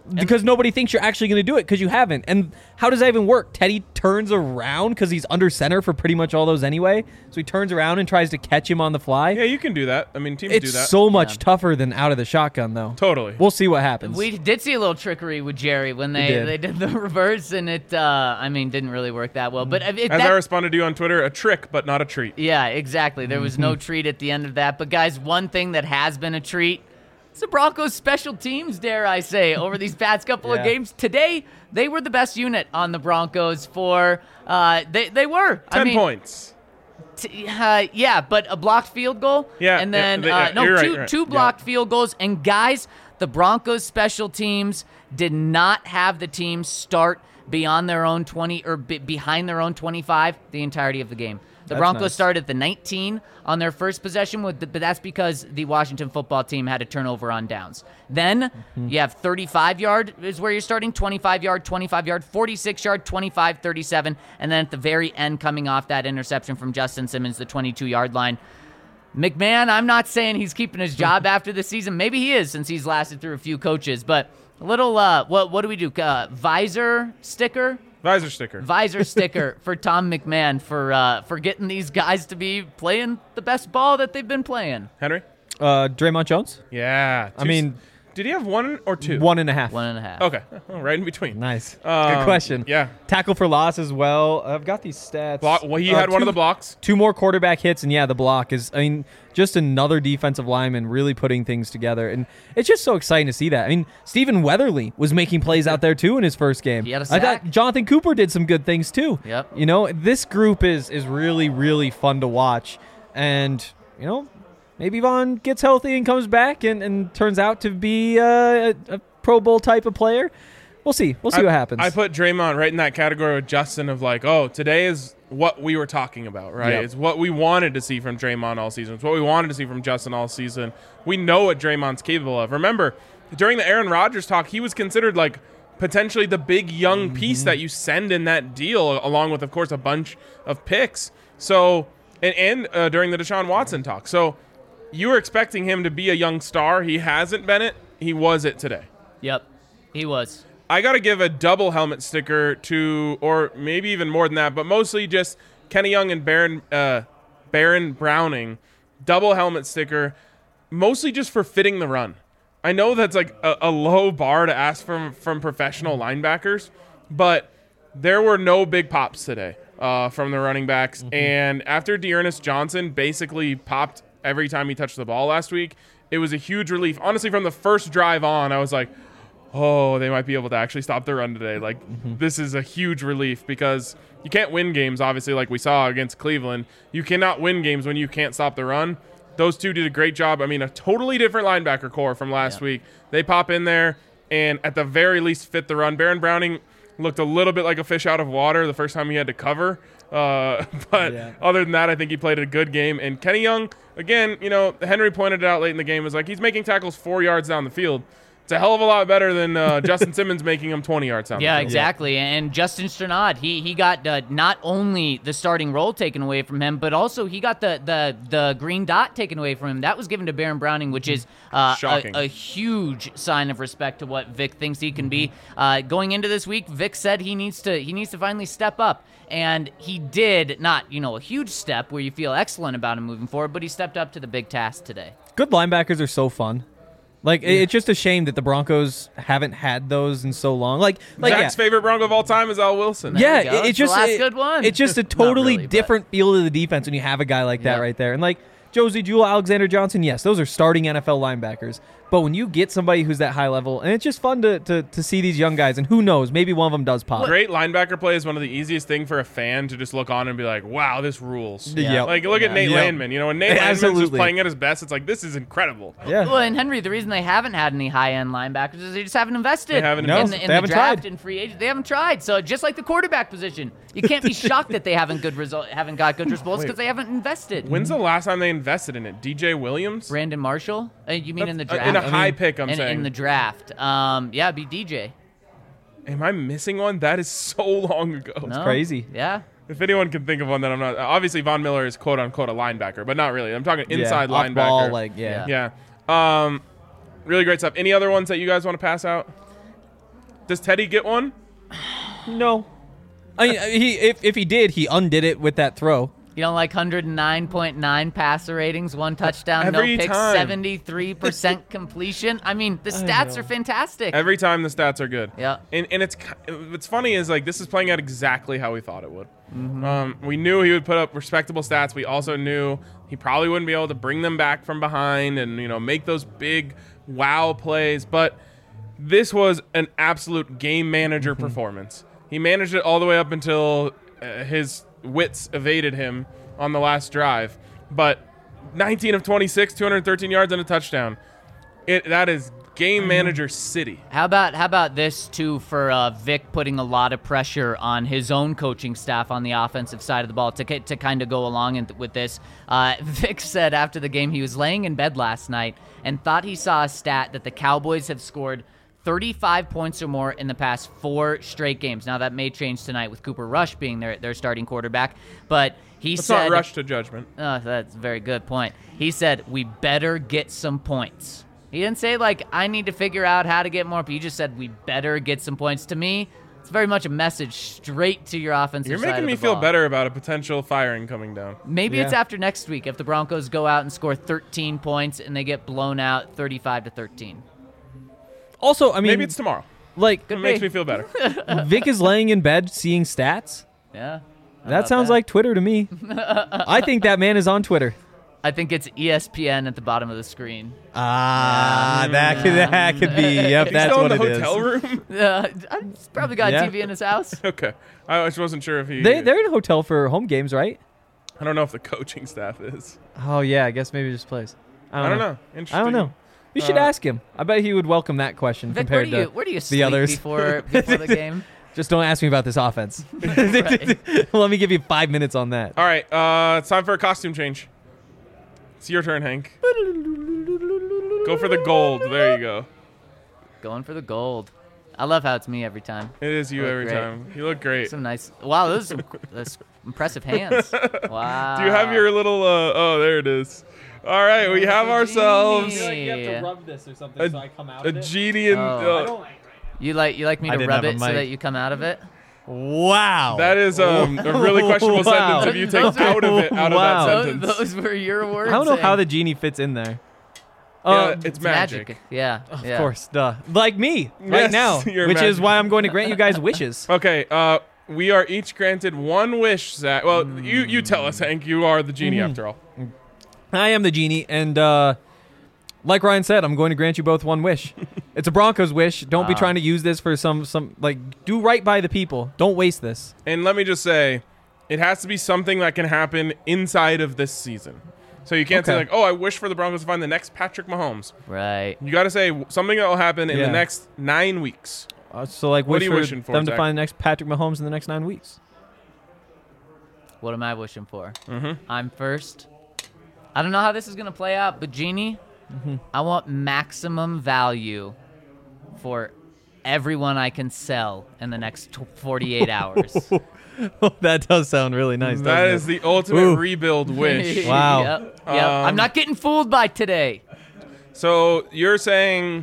because nobody thinks you're actually going to do it because you haven't. And how does that even work? Teddy turns around because he's under center for pretty much all those anyway. So he turns around and tries to catch him on the fly. Yeah, you can do that. I mean, teams It's do that. so much tougher than out of the shotgun, though. Totally. We'll see what happens. We did see a little trickery with Jerry when they, did. they did the reverse, and it, uh, I mean, didn't really work that well. But if As that, I responded to you on Twitter, a trick, but not a treat. yeah, exactly. There was no treat at the end of that. But guys, one thing that has been a treat is the Broncos' special teams, dare I say, over these past couple Yeah. of games. Today, they were the best unit on the Broncos for, uh, they, they were. Ten I mean, points. T- uh, yeah, but a blocked field goal. Yeah, and yeah, then they- uh, yeah, no, you're right, two you're right. two Yeah. blocked field goals. And guys, the Broncos special teams did not have the team start beyond their own twenty or be- behind their own twenty-five the entirety of the game. The That's Broncos nice. started at the nineteen on their first possession, with the, but that's because the Washington football team had a turnover on downs. Then Mm-hmm. you have thirty-five yard is where you're starting, twenty-five yard, twenty-five yard, forty-six yard, twenty-five, thirty-seven, and then at the very end, coming off that interception from Justin Simmons, the twenty-two yard line. McMahon, I'm not saying he's keeping his job after the season. Maybe he is, since he's lasted through a few coaches. But a little, uh, what what do we do? Uh, visor sticker. Visor sticker. Visor sticker for Tom McMahon for uh, for getting these guys to be playing the best ball that they've been playing. Henry? uh, Draymond Jones? Yeah. I Two- mean, did he have one or two? one and a half. One and a half. Okay. Oh, right in between. Nice. Um, Good question. yeah. Tackle for loss as well. I've got these stats. Block, well, he Uh, had one of two- the blocks. Two more quarterback hits, and yeah, the block is, I mean, just another defensive lineman really putting things together. And it's just so exciting to see that. I mean, Stephen Weatherly was making plays out there, too, in his first game. He had a I sack. thought Jonathan Cooper did some good things, too. Yep. You know, this group is is really, really fun to watch. And, you know, maybe Vaughn gets healthy and comes back and, and turns out to be uh, a, a Pro Bowl type of player. We'll see. We'll see I, what happens. I put Draymond right in that category with Justin of like, oh, today is what we were talking about, right? Yep. It's what we wanted to see from Draymond all season. It's what we wanted to see from Justin all season. We know what Draymond's capable of. Remember, during the Aaron Rodgers talk, he was considered like potentially the big young piece that you send in that deal, along with, of course, a bunch of picks. So, and, and uh, during the Deshaun Watson talk. So you were expecting him to be a young star. He hasn't been it. He was it today. Yep, he was. I got to give a double helmet sticker to, or maybe even more than that, but mostly just Kenny Young and Baron, uh, Baron Browning. Double helmet sticker, mostly just for fitting the run. I know that's like a, a low bar to ask from, from professional linebackers, but there were no big pops today uh, from the running backs. Mm-hmm. And after Dearness Johnson basically popped every time he touched the ball last week, it was a huge relief. Honestly, from the first drive on, I was like, oh, they might be able to actually stop the run today. Like, Mm-hmm. this is a huge relief because you can't win games, obviously, like we saw against Cleveland. You cannot win games when you can't stop the run. Those two did a great job. I mean, a totally different linebacker core from last Yeah. week. They pop in there and at the very least fit the run. Baron Browning looked a little bit like a fish out of water the first time he had to cover. Uh, but Yeah. other than that, I think he played a good game. And Kenny Young, again, you know, Henry pointed it out late in the game, was like he's making tackles four yards down the field. It's a hell of a lot better than uh, Justin Simmons making him twenty yards down Yeah, the field. exactly. And Justin Strnad, he he got uh, not only the starting role taken away from him, but also he got the the the green dot taken away from him. That was given to Baron Browning, which is uh, Shocking. a, a huge sign of respect to what Vic thinks he can be. Uh, going into this week, Vic said he needs to he needs to finally step up. And he did, not, you know, a huge step where you feel excellent about him moving forward, but he stepped up to the big task today. Good linebackers are so fun. Like, it- it's just a shame that the Broncos haven't had those in so long. Like, like Zach's yeah. favorite Bronco of all time is Al Wilson. Yeah, you go. it- It's it's the just last it- good one. It's just a Not totally really, but- different feel to the defense when you have a guy like that Yeah. right there. And like Josie Jewell, Alexander Johnson, yes, those are starting N F L linebackers. But when you get somebody who's that high level, and it's just fun to, to, to see these young guys, and who knows, maybe one of them does pop. Great linebacker play is one of the easiest thing for a fan to just look on and be like, wow, this rules. Yeah. Yep. Like, look at Yeah. Nate Yep. Landman. You know, when Nate Landman's just Absolutely. playing at his best, it's like, this is incredible. Yeah. Well, and Henry, the reason they haven't had any high-end linebackers is they just haven't invested They haven't in, invested. the, in They the haven't draft tried. and free agent. They haven't tried. So just like the quarterback position, you can't be shocked that they haven't good result, haven't got good results because they haven't invested. When's the last time they invested in it? D J Williams? Brandon Marshall? Uh, you mean in the That's- draft? uh, in a high pick, I'm in, saying. in the draft. Um, yeah, it'd be D J. Am I missing one? That is so long ago. No? crazy. Yeah. If anyone can think of one that I'm not, obviously Von Miller is quote unquote a linebacker, but not really. I'm talking Yeah, inside off linebacker. ball, like, yeah. yeah. Um, really great stuff. Any other ones that you guys want to pass out? Does Teddy get one? No. I mean, he if, if he did, he undid it with that throw. You don't like one hundred nine point nine passer ratings, one touchdown, Every no picks, time. seventy-three percent completion. I mean, the stats know. are fantastic. Every time the stats are good. Yeah. And and it's what's funny is like this is playing out exactly how we thought it would. Um, we knew he would put up respectable stats. We also knew he probably wouldn't be able to bring them back from behind and you know make those big wow plays. But this was an absolute game manager performance. He managed it all the way up until uh, his wits evaded him on the last drive. But nineteen of twenty-six, two hundred thirteen yards and a touchdown. It that is game manager city. How about how about this too for uh, Vic putting a lot of pressure on his own coaching staff on the offensive side of the ball to to kind of go along in, with this. Uh, Vic said after the game he was laying in bed last night and thought he saw a stat that the Cowboys have scored thirty-five points or more in the past four straight games. Now that may change tonight with Cooper Rush being their their starting quarterback, but he Let's said not rush to judgment. Oh, that's a very good point. He said, we better get some points. He didn't say, like, I need to figure out how to get more. He just said, we better get some points. To me, it's very much a message straight to your offensive You're side making of me the feel ball. better about a potential firing coming down. Maybe it's Yeah. after next week if the Broncos go out and score thirteen points and they get blown out thirty-five to thirteen. Also, I mean, Maybe it's tomorrow. like It Could makes be. me feel better. Vic is laying in bed seeing stats. Yeah. How That about sounds like Twitter to me. I think that man is on Twitter. I think it's E S P N at the bottom of the screen. Ah, that could that could be. Yep, He's that's still what in the it is. hotel room? Uh, I've probably got Yeah. a T V in his house. Okay. I just wasn't sure if he... They they're in a hotel for home games, right? I don't know if the coaching staff is. Oh yeah, I guess maybe just plays. I don't, I don't know. know. Interesting. I don't know. You should Uh, ask him. I bet he would welcome that question Vic, where compared do you to where do you the sleep others. before before the game? Just don't ask me about this offense. Right. Let me give you five minutes on that. All right. Uh, it's time for a costume change. It's your turn, Hank. Go for the gold. There you go. Going for the gold. I love how it's me every time. It is you Look every great. time. You look great. Some nice. Wow, those are some those impressive hands. Wow. Do you have your little... Uh, oh, there it is. All right. We have ourselves I feel like you have to Yeah. rub this or something a, a genie and... Oh. Uh, You like you like me I to didn't rub have a it so mic. that you come out of it? Wow. that is um, a really questionable Wow. sentence if you take out of it, out Wow. of that Those, sentence. those were your words. I don't know how Hank. the genie fits in there. Yeah, Uh, it's It's magic. Yeah. Of yeah. course, duh. Like me right Yes, now, you're which is magic. why I'm going to grant you guys wishes. Okay, uh, we are each granted one wish, Zach. Well, you, you tell us, Hank. You are the genie Mhm. after all. I am the genie, and uh, like Ryan said, I'm going to grant you both one wish. It's a Broncos wish. Don't be Wow. trying to use this for some some like do right by the people. Don't waste this. And let me just say, it has to be something that can happen inside of this season. So you can't say Okay. like, oh, I wish for the Broncos to find the next Patrick Mahomes. Right. You got to say something that will happen in Yeah. the next nine weeks. Uh, so like, What wish are you for wishing for, them to Zach? find the next Patrick Mahomes in the next nine weeks. What am I wishing for? Mm-hmm. I'm first. I don't know how this is gonna play out, but Genie, Mm-hmm. I want maximum value for everyone I can sell in the next t- forty-eight hours. That does sound really nice. That doesn't is it? the ultimate Ooh. rebuild wish. Wow. Yep. Yep. Um, I'm not getting fooled by today. So you're saying,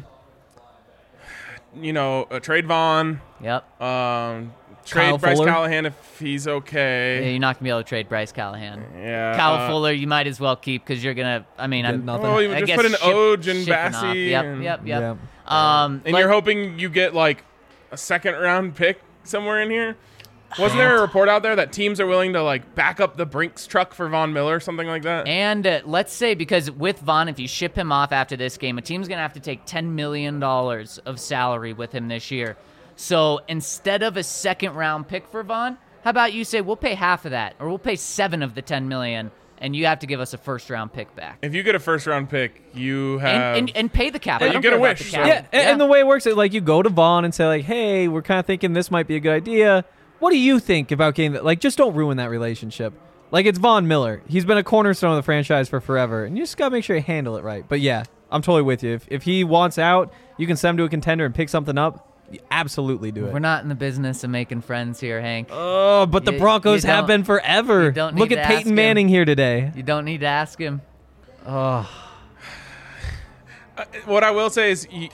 you know, uh, trade Vaughn, Yep. um, trade Kyle Bryce Fuller? Callahan if he's Yeah, okay. you're not gonna be able to trade Bryce Callahan. Yeah. Kyle uh, Fuller, you might as well keep because you're gonna. I mean, Get I'm. nothing. Oh, you I just guess put in ship- Oj and shipping off. Bassey. Yep. and, Yep. Yep. Yeah. Um, And like- you're hoping you get like a second round pick somewhere in here. Wasn't there a report out there that teams are willing to like back up the Brinks truck for Von Miller, something like that? And uh, let's say, because with Vaughn, if you ship him off after this game, a team's going to have to take ten million dollars of salary with him this year. So instead of a second round pick for Vaughn, how about you say we'll pay half of that, or we'll pay seven of the ten million, and you have to give us a first round pick back. If you get a first round pick, you have And, and, and pay the cap. Yeah, I you don't get care a about wish, the so- cap. Yeah, and, and the way it works is like you go to Vaughn and say like, "Hey, we're kind of thinking this might be a good idea. What do you think about getting that?" Like, just don't ruin that relationship. Like, it's Von Miller. He's been a cornerstone of the franchise for forever, and you just gotta make sure you handle it right. But yeah, I'm totally with you. If if he wants out, you can send him to a contender and pick something up. You absolutely do We're it. not in the business of making friends here, Hank. Oh, but the You- Broncos you have don't- been forever. you don't Look need at to ask Peyton him. Manning here today. You don't need to ask him. Oh, Uh, what I will say is, y-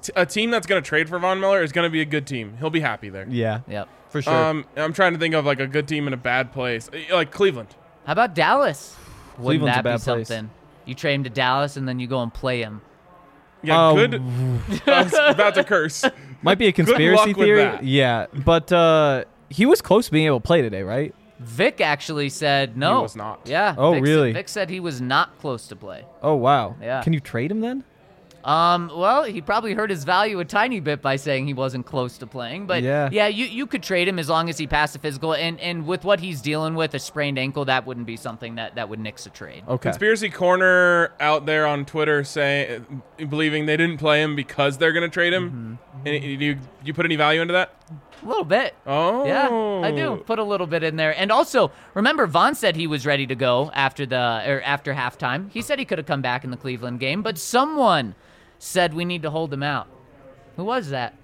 t- a team that's going to trade for Von Miller is going to be a good team. He'll be happy there. Yeah, Yep. for sure. Um, I'm trying to think of like a good team in a bad place, like Cleveland. How about Dallas? Wouldn't Cleveland's a that be bad place. something? You trade him to Dallas and then you go and play him. Yeah, Oh, good. I was about to curse. Might be a luck conspiracy with theory. that. Yeah, but uh, he was close to being able to play today, right? Vic actually said no. was not. Yeah. Oh, Vic really? Said, Vic said he was not close to play. Oh wow. Yeah. Can you trade him then? Um, well, he probably hurt his value a tiny bit by saying he wasn't close to playing. But Yeah. yeah, you, you could trade him as long as he passed the physical. And, and with what he's dealing with, a sprained ankle, that wouldn't be something that, that would nix a trade. Okay. Conspiracy Corner out there on Twitter saying, believing they didn't play him because they're going to trade him. Mm-hmm. And you you put any value into that? A little bit. Oh, Yeah, I do. Put a little bit in there. And also, remember, Vaughn said he was ready to go after the or after halftime. He said he could have come back in the Cleveland game, but someone said we need to hold him out. Who was that?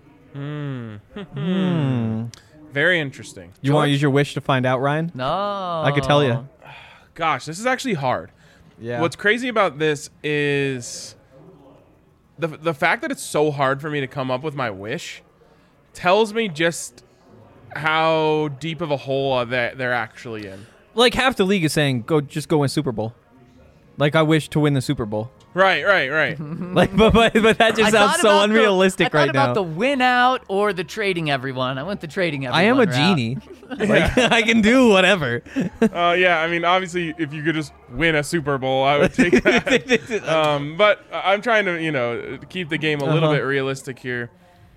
Very interesting. You want to use your wish to find out, Ryan? No. I could tell you. Gosh, this is actually hard. Yeah. What's crazy about this is the the fact that it's so hard for me to come up with my wish tells me just how deep of a hole that they're actually in. Like half the league is saying, "Go, just go win Super Bowl." Like I wish to win the Super Bowl. Right, right, right. Like, but, but but that just I sounds thought so about the- unrealistic I thought right about now. the win out or the trading everyone. I went the trading everyone. I am a route. genie. Like I can do whatever. uh, yeah, I mean, obviously, if you could just win a Super Bowl, I would take that. um, but I'm trying to, you know, keep the game a little Uh-huh. bit realistic here.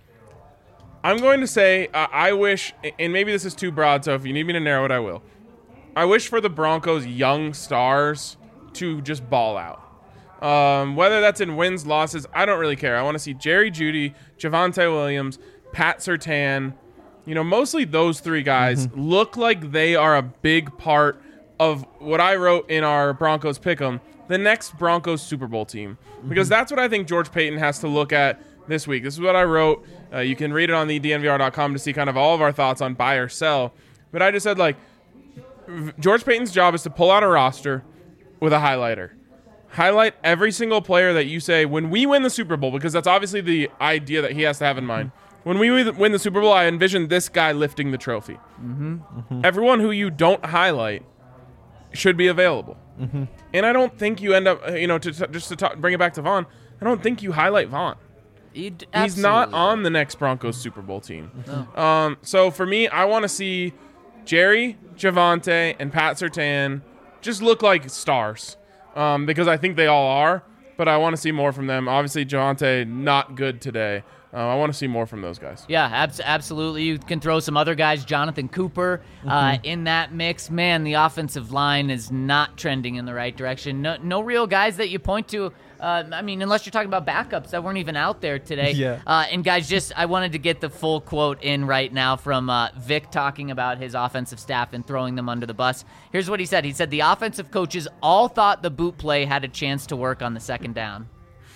I'm going to say uh, I wish, and maybe this is too broad, so if you need me to narrow it, I will. I wish for the Broncos' young stars to just ball out. Um, whether that's in wins, losses, I don't really care. I want to see Jerry Jeudy, Javonte Williams, Pat Surtain, you know, mostly those three guys look like they are a big part of what I wrote in our Broncos Pick'em, the next Broncos Super Bowl team. Because that's what I think George Paton has to look at this week. This is what I wrote. Uh, you can read it on the D N V R dot com to see kind of all of our thoughts on buy or sell. But I just said, like, George Paton's job is to pull out a roster with a highlighter. Highlight every single player that you say, when we win the Super Bowl, because that's obviously the idea that he has to have in mind. When we win the Super Bowl, I envision this guy lifting the trophy. Mm-hmm. Mm-hmm. Everyone who you don't highlight should be available. Mm-hmm. And I don't think you end up, you know, to, to just to talk, bring it back to Vaughn, I don't think you highlight Vaughn. He'd He's not absolutely- on the next Broncos Super Bowl team. Um, so for me, I want to see Jerry, Javonte, and Pat Surtain just look like stars um, because I think they all are, but I want to see more from them. Obviously, Javonte, not good today. Uh, I want to see more from those guys. Yeah, abs- absolutely. You can throw some other guys, Jonathan Cooper, uh, in that mix. Man, the offensive line is not trending in the right direction. No, no real guys that you point to. Uh, I mean, unless you're talking about backups that weren't even out there today. Yeah. Uh, and guys, just I wanted to get the full quote in right now from uh, Vic talking about his offensive staff and throwing them under the bus. Here's what he said. He said the offensive coaches all thought the boot play had a chance to work on the second down.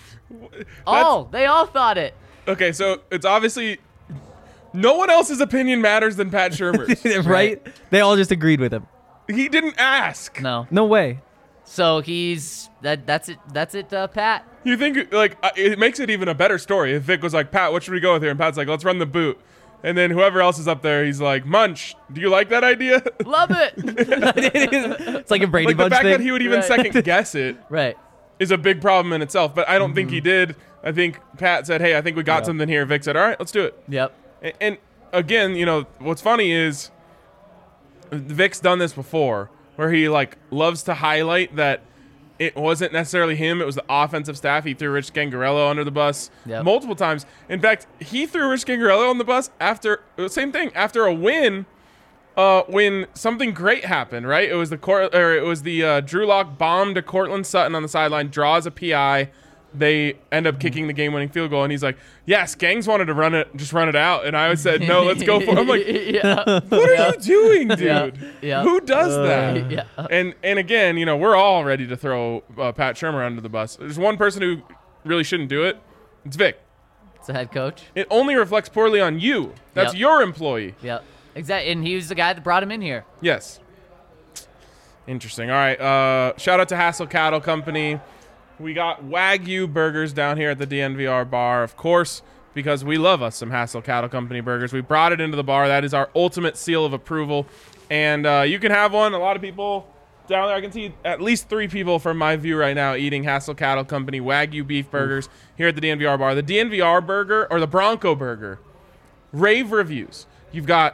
All. They all thought it. Okay, so it's obviously no one else's opinion matters than Pat Shurmur's. right? They all just agreed with him. He didn't ask. No. No way. So he's that. That's it. That's it, uh, Pat. You think, like, uh, it makes it even a better story if Vic was like, Pat, what should we go with here? And Pat's like, let's run the boot. And then whoever else is up there, he's like, Munch, do you like that idea? Love it. It's like a Brady Like, the Bunch fact thing. that he would even Right. second guess it Right. is a big problem in itself. But I don't think he did. I think Pat said, hey, I think we got Yeah. something here. Vic said, all right, let's do it. Yep. And, and again, you know, what's funny is Vic's done this before where he, like, loves to highlight that it wasn't necessarily him. It was the offensive staff. He threw Rich Gangarello under the bus Yep. multiple times. In fact, he threw Rich Gangarello on the bus after same thing after a win. Uh, when something great happened, right? It was the court, or it was the uh, Drew Lock bomb to Cortland Sutton on the sideline, draws a P I. They end up kicking the game-winning field goal, and he's like, "Yes, Gangs wanted to run it, just run it out." And I said, "No, let's go for it." I'm like, yeah. what are you doing, dude? Yeah. Yeah. Who does that? Yeah. And and again, you know, we're all ready to throw uh, Pat Shurmur under the bus. There's one person who really shouldn't do it. It's Vic. It's the head coach. It only reflects poorly on you. That's Yep. your employee. Yep. Exactly. And he was the guy that brought him in here. Yes. Interesting. All right. Uh, shout out to Hassel Cattle Company. We got Wagyu burgers down here at the D N V R bar. Of course, because we love us some Hassel Cattle Company burgers. We brought it into the bar. That is our ultimate seal of approval. And uh, you can have one. A lot of people down there, I can see at least three people from my view right now eating Hassel Cattle Company Wagyu beef burgers Oof. here at the D N V R bar. The D N V R burger, or the Bronco burger, rave reviews. You've got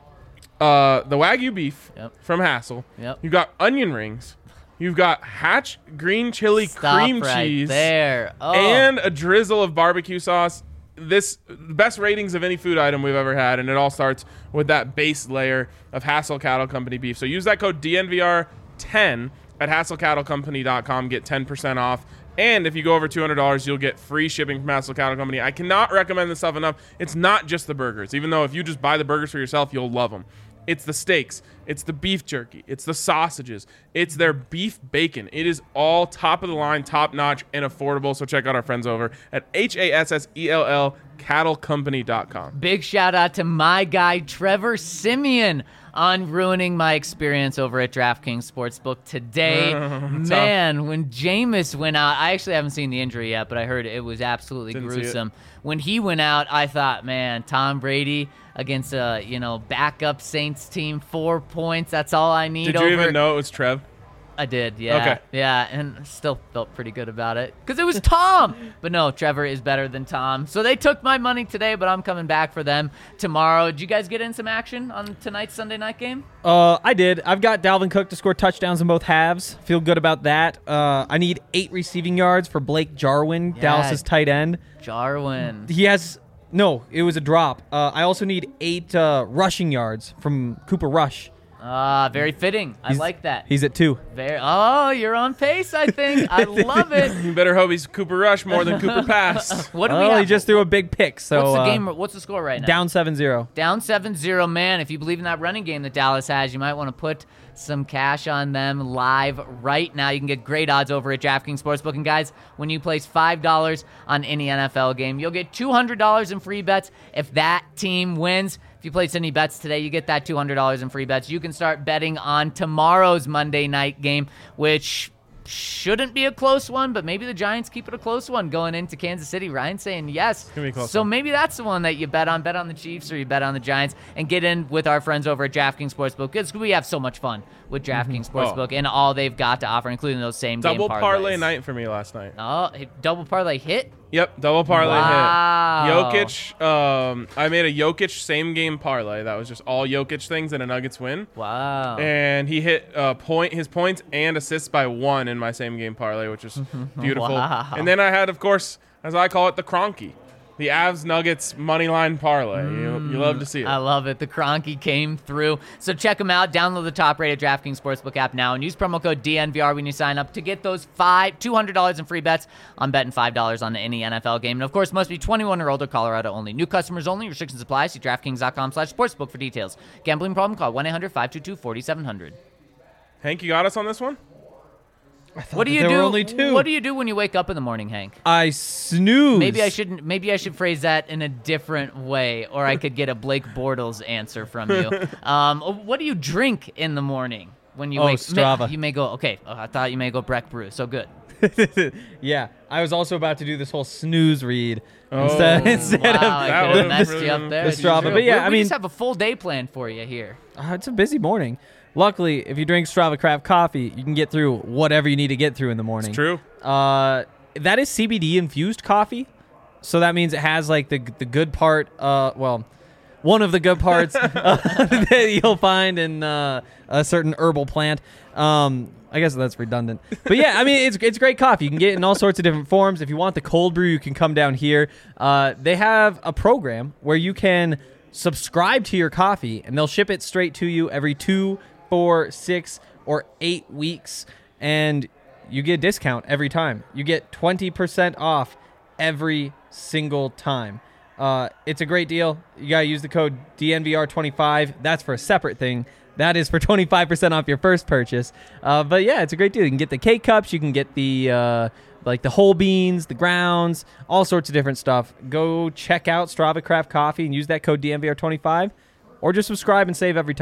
uh, the Wagyu beef yep. from Hassel. Yep. You've got onion rings. You've got Hatch green chili Stop cream right cheese there. Oh. and a drizzle of barbecue sauce. This best ratings of any food item we've ever had, and it all starts with that base layer of Hassel Cattle Company beef. So use that code D N V R ten at hassel cattle company dot com. Get ten percent off. And if you go over two hundred dollars, you'll get free shipping from Hassel Cattle Company. I cannot recommend this stuff enough. It's not just the burgers, even though if you just buy the burgers for yourself, you'll love them. It's the steaks. It's the beef jerky. It's the sausages. It's their beef bacon. It is all top of the line, top notch, and affordable. So check out our friends over at H A S S E L L cattle company dot com. Big shout out to my guy, Trevor Simeon, on ruining my experience over at DraftKings Sportsbook today. Man, when Jameis went out, I actually haven't seen the injury yet, but I heard it was absolutely Didn't gruesome. When he went out, I thought, man, Tom Brady against a you know backup Saints team, four points. That's all I need. Did you over. even know it was Trev? I did, yeah. Okay. Yeah, and still felt pretty good about it because it was Tom. But no, Trevor is better than Tom. So they took my money today, but I'm coming back for them tomorrow. Did you guys get in some action on tonight's Sunday night game? Uh, I did. I've got Dalvin Cook to score touchdowns in both halves. Feel good about that. Uh, I need eight receiving yards for Blake Jarwin, Yeah. Dallas's tight end. Jarwin. He has no. It was a drop. Uh, I also need eight uh, rushing yards from Cooper Rush. Ah, very fitting. I He's- like that. He's at two. Very. Oh, you're on pace, I think. I love it. You better hope he's Cooper Rush more than Cooper Pass. What do we Oh, have? he just threw a big pick. So What's the uh, game? What's the score right now? down seven zero. Down seven zero, man. If you believe in that running game that Dallas has, you might want to put some cash on them live right now. You can get great odds over at DraftKings Sportsbook. And guys, when you place five dollars on any N F L game, you'll get two hundred dollars in free bets if that team wins. If you place any bets today, you get that two hundred dollars in free bets. You can start betting on tomorrow's Monday night game, which shouldn't be a close one, but maybe the Giants keep it a close one going into Kansas City. Ryan's saying yes. gonna be a close so one. maybe that's the one that you bet on. Bet on the Chiefs or you bet on the Giants and get in with our friends over at DraftKings Sportsbook because we have so much fun with DraftKings Sportsbook and all they've got to offer, including those same Double game parlay parlays. night for me last night. Oh, double parlay hit? Yep, double parlay Wow. hit. Jokic, um, I made a Jokic same game parlay. That was just all Jokic things and a Nuggets win. Wow. And he hit uh, point his points and assists by one in my same game parlay, which is beautiful. Wow. And then I had, of course, as I call it, the Cronky, the Avs Nuggets money line parlay. You, you love to see it. I love it. The Cronky came through. So check them out. Download the top-rated DraftKings Sportsbook app now and use promo code D N V R when you sign up to get those five two hundred dollars in free bets on betting five dollars on any N F L game. And, of course, must be twenty-one or older, Colorado only. New customers only. Restrictions apply. See DraftKings.com slash sportsbook for details. Gambling problem? Call one eight hundred five two two four seven zero zero. Hank, you got us on this one? What do you there do? were only two. What do you do when you wake up in the morning, Hank? I snooze. Maybe I shouldn't. Maybe I should phrase that in a different way, or I could get a Blake Bortles answer from you. Um, what do you drink in the morning when you Oh, wake? Strava. May, you may go. Okay, oh, I thought you may go Breck Brew. So good. Yeah, I was also about to do this whole snooze read Oh. instead, instead Wow, of I That could have would've messed really you up been there. the Strava, but yeah, we, I we mean- just have a full day planned for you here. Uh, it's a busy morning. Luckily, if you drink Strava Craft coffee, you can get through whatever you need to get through in the morning. It's true. Uh, that is C B D infused coffee, so that means it has like the the good part. Uh, well, one of the good parts uh, that you'll find in uh, a certain herbal plant. Um, I guess that's redundant, but yeah, I mean it's it's great coffee. You can get it in all sorts of different forms. If you want the cold brew, you can come down here. Uh, they have a program where you can subscribe to your coffee, and they'll ship it straight to you every two, four, six, or eight weeks, and you get a discount every time. You get twenty percent off every single time. Uh, it's a great deal. You got to use the code D N V R twenty-five. That's for a separate thing. That is for twenty-five percent off your first purchase. Uh, but yeah, it's a great deal. You can get the K-Cups. You can get the uh, like the whole beans, the grounds, all sorts of different stuff. Go check out Strava Craft Coffee and use that code D N V R twenty-five, or just subscribe and save every time.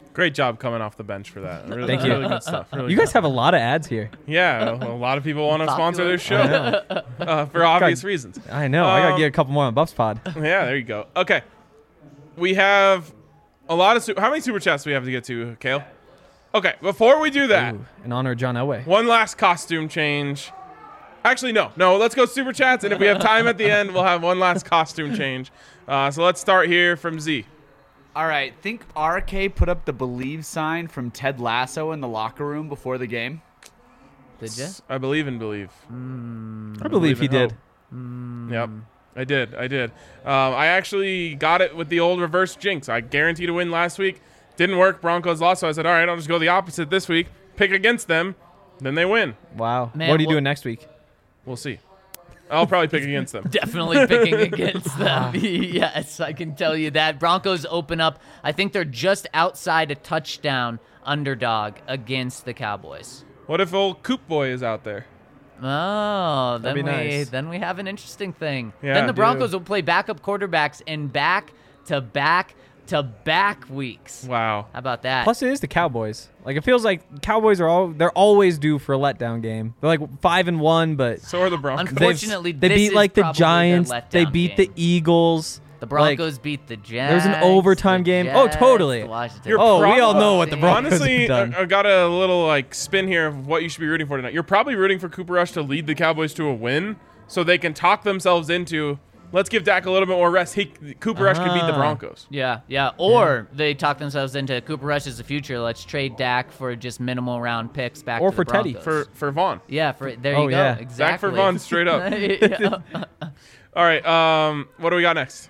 Great job coming off the bench for that. Really, Thank you. Really good stuff. Really You good guys have a lot of ads here. Yeah, a lot of people want to sponsor Popular. this show uh, for obvious reasons. I know. I gotta Um, get a couple more on Buffs Pod. Yeah, there you go. Okay, we have a lot of. Su- How many super chats do we have to get to, Kale? Okay, before we do that, Ooh, in honor of John Elway. one last costume change. Actually, no, no. Let's go super chats, and if we have time at the end, we'll have one last costume change. Uh, so let's start here from Z. All right, think R K put up the believe sign from Ted Lasso in the locker room before the game. Did you? I believe and believe. I believe he in hope. did. Yep. I did. I did. Um, I actually got it with the old reverse jinx. I guaranteed a win last week. Didn't work. Broncos lost. So I said, all right, I'll just go the opposite this week. Pick against them. Then they win. Wow. Man, what are you well- doing next week? We'll see. I'll probably pick against them. Definitely picking against them. Yes, I can tell you that. Broncos open up. I think they're just outside a touchdown underdog against the Cowboys. What if old Coop Boy is out there? Oh, then That'd we be nice. then we have an interesting thing. Yeah, then the dude. Broncos will play backup quarterbacks in back to back to back weeks. Wow. How about that? Plus, it is the Cowboys. Like it feels like Cowboys are all they're always due for a letdown game. They're like five and one, but So are the Broncos. they've- Unfortunately, they this beat is like the probably their Giants. They letdown beat game. the Eagles. The Like, Broncos beat the Jets. There's an overtime the game. Oh, Jets, totally. the Washington You're oh, prob- we all know what the Broncos Honestly, have done. I, I got a little like spin here of what you should be rooting for tonight. You're probably rooting for Cooper Rush to lead the Cowboys to a win, so they can talk themselves into. Let's give Dak a little bit more rest. He, Cooper Rush could beat the Ah. Broncos. Yeah, yeah. Or they talk themselves into Cooper Rush is the future. Let's trade Dak for just minimal round picks back Or to for the Teddy. Broncos. For for Vaughn. yeah, for there Oh, you go. yeah. Exactly. Dak for Vaughn straight up. Yeah. All right. Um, what do we got next?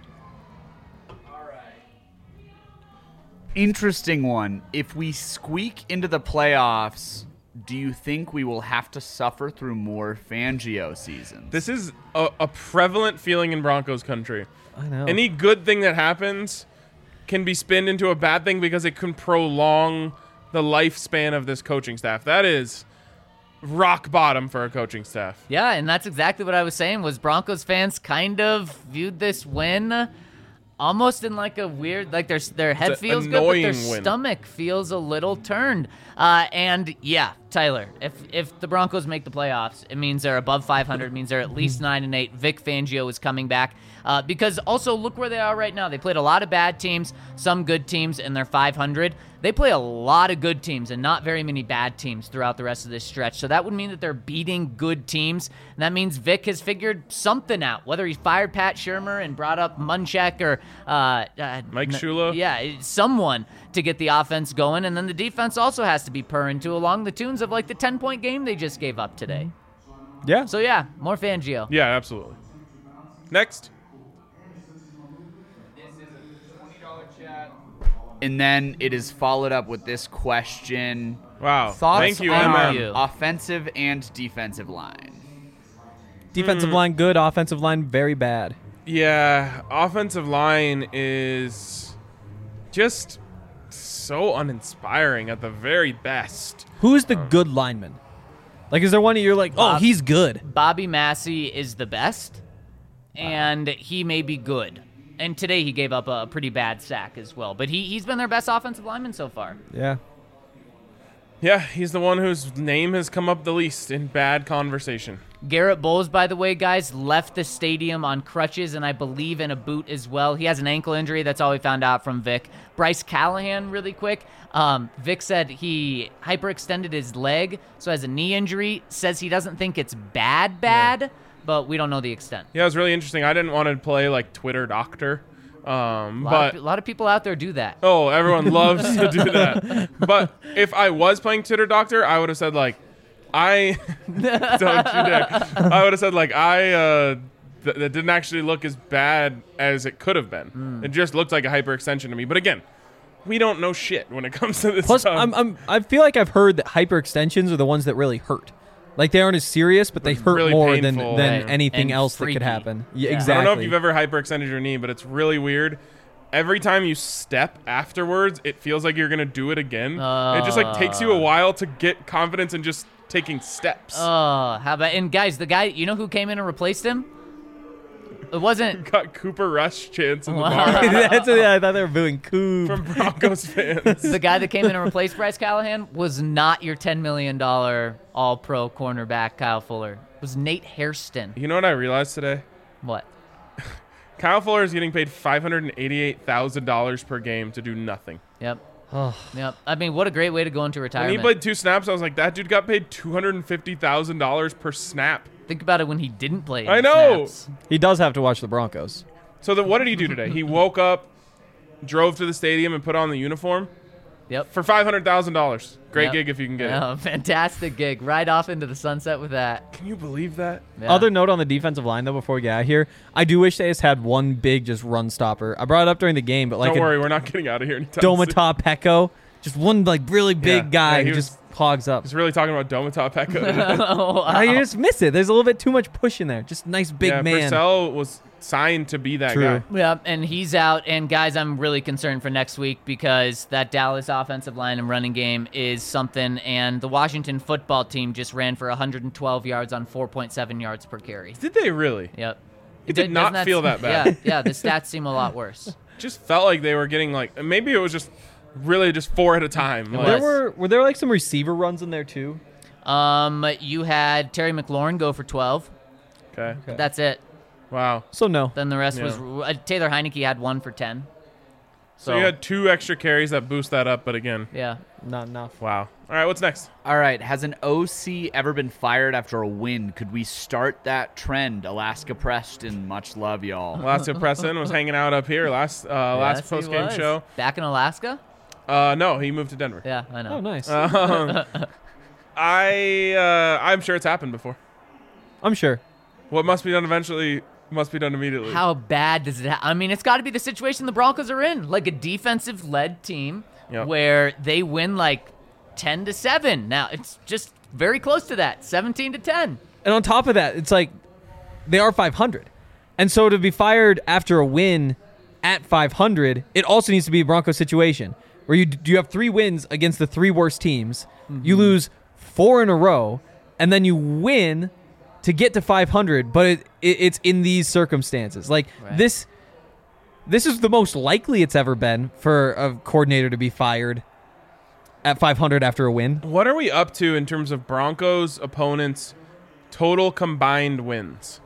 Interesting one. If we squeak into the playoffs, do you think we will have to suffer through more Fangio seasons? This is a, a prevalent feeling in Broncos country. I know. Any good thing that happens can be spinned into a bad thing because it can prolong the lifespan of this coaching staff. That is rock bottom for a coaching staff. Yeah, and that's exactly what I was saying. Was Broncos fans kind of viewed this win almost in like a weird, like their their head It's a feels good, but their annoying win. stomach feels a little turned. Uh, and yeah, Tyler, if if the Broncos make the playoffs, it means they're above five hundred. It means they're at least nine and eight. Vic Fangio is coming back uh, because also look where they are right now. They played a lot of bad teams, some good teams, and they're five hundred. They play a lot of good teams and not very many bad teams throughout the rest of this stretch. So that would mean that they're beating good teams. And that means Vic has figured something out, whether he fired Pat Shurmur and brought up Munchak or uh, uh, Mike n- Shula? Yeah, someone to get the offense going. And then the defense also has to be purring to along the tunes of like the ten-point game they just gave up today. yeah. So yeah, more Fangio. Yeah, absolutely. Next. And then it is followed up with this question. Wow. Thoughts Thank you, on M our M. you. offensive and defensive line? Defensive Hmm. line good, offensive line very bad. Yeah, offensive line is just so uninspiring at the very best. Who's the good lineman? Like, is there one that you're like, oh, Bob- he's good? Bobby Massey is the best, and he may be good. And today he gave up a pretty bad sack as well. But he, he's been their best offensive lineman so far. Yeah. Yeah, he's the one whose name has come up the least in bad conversation. Garrett Bowles, by the way, guys, left the stadium on crutches and I believe in a boot as well. He has an ankle injury. That's all we found out from Vic. Bryce Callahan, really quick. Um, Vic said he hyperextended his leg, so has a knee injury. Says he doesn't think it's bad, bad, but we don't know the extent. Yeah, it was really interesting. I didn't want to play like Twitter doctor, um, A lot, but of, a lot of people out there do that. oh, everyone loves to do that. But if I was playing Twitter doctor, I would have said like, I don't you dare. I would have said like I uh, th- that didn't actually look as bad as it could have been. Mm. It just looked like a hyperextension to me. But again, we don't know shit when it comes to this Plus, stuff. I'm, I'm, I feel like I've heard that hyperextensions are the ones that really hurt. Like, they aren't as serious, but they hurt Really more painful. than, than Right. anything And else that freaky. could happen. Yeah, Yeah. I don't know exactly. I don't know if you've ever hyperextended your knee, but it's really weird. Every time you step afterwards, it feels like you're gonna do it again. it just like takes you a while to get confidence in just taking steps. Oh, how about and guys, the guy you know who came in and replaced him? it wasn't. Got Cooper Rush chants in the Wow. bar That's what, I thought they were booing Coop. from Broncos fans. The guy that came in and replaced Bryce Callahan was not your ten million dollars all-pro cornerback Kyle Fuller. It was Nate Hairston. You know what I realized today? What? Kyle Fuller is getting paid five hundred eighty-eight thousand dollars per game to do nothing. Yep. Oh. Yep. I mean, what a great way to go into When retirement. he played two snaps, I was like, that dude got paid two hundred fifty thousand dollars per snap. Think about it when he didn't play. I any know. snaps. He does have to watch the Broncos. So then what did he do today? He woke up, drove to the stadium, and put on the uniform Yep. for five hundred thousand dollars. Great Yep. gig if you can get Yeah, fantastic gig. Right off into the sunset with that. it. Can you believe that? Yeah. Other note on the defensive line, though, before we get out of here, I do wish they just had one big just run stopper. I brought it up during the game, but like Don't a worry, we're not getting out of here anytime soon. Domata Pecco, just one like really big Yeah. guy Yeah, he who was- just hogs up. He's really talking about Domata Pecco. Oh, wow. I just miss it. There's a little bit too much push in there. Just nice big yeah, man. Purcell was signed to be that True. guy. Yeah, and he's out. And guys, I'm really concerned for next week because that Dallas offensive line and running game is something. And the Washington football team just ran for one hundred twelve yards on four point seven yards per carry. Did they really? Yep. It did Doesn't not that- feel that bad. Yeah, yeah. The stats seem a lot worse. Just felt like they were getting like maybe it was just really just four at a time. Like, There was. were were there like some receiver runs in there too? Um, you had Terry McLaurin go for twelve. okay. Okay. That's it. Wow. So no. Then the rest Yeah. was uh, Taylor Heineke had one for ten. So you had two extra carries that boost that up, but again, yeah, not enough. Wow. All right, what's next? All right. Has an O C ever been fired after a win? Could we start that trend? Alaska Preston, much love, y'all. Alaska Preston was hanging out up here last uh, last Yes, he post game was. show. Back in Alaska? Uh, no, he moved to Denver. Yeah, I know. Oh, nice. Um, I uh, I'm sure it's happened before. I'm sure. What must be done eventually must be done immediately. How bad does it ha- I mean, it's got to be the situation the Broncos are in, like a defensive-led team Yep. where they win like ten to seven. Now, it's just very close to that, seventeen to ten. And on top of that, it's like they are five hundred. And so to be fired after a win at five hundred, it also needs to be a Broncos situation where you you have three wins against the three worst teams. Mm-hmm. You lose four in a row, and then you win to get to five hundred, but it, it, it's in these circumstances. Like Right. this this is the most likely it's ever been for a coordinator to be fired at five hundred after a win. What are we up to in terms of Broncos opponents' total combined wins?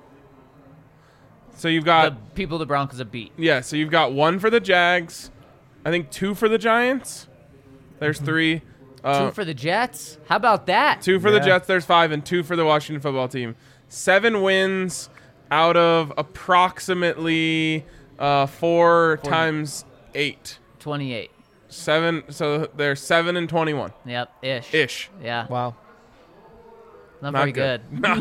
So you've got The people the Broncos have beat. yeah, so you've got one for the Jags, I think two for the Giants. There's three. Uh, Two for the Jets? How about that? Two for the Yeah. Jets, there's five, and two for the Washington football team. Seven wins out of approximately uh, four Forty. times eight. twenty-eight. Seven, so they're seven and twenty-one Yep, ish. ish. Yeah, Wow. not, Not very good. good. Not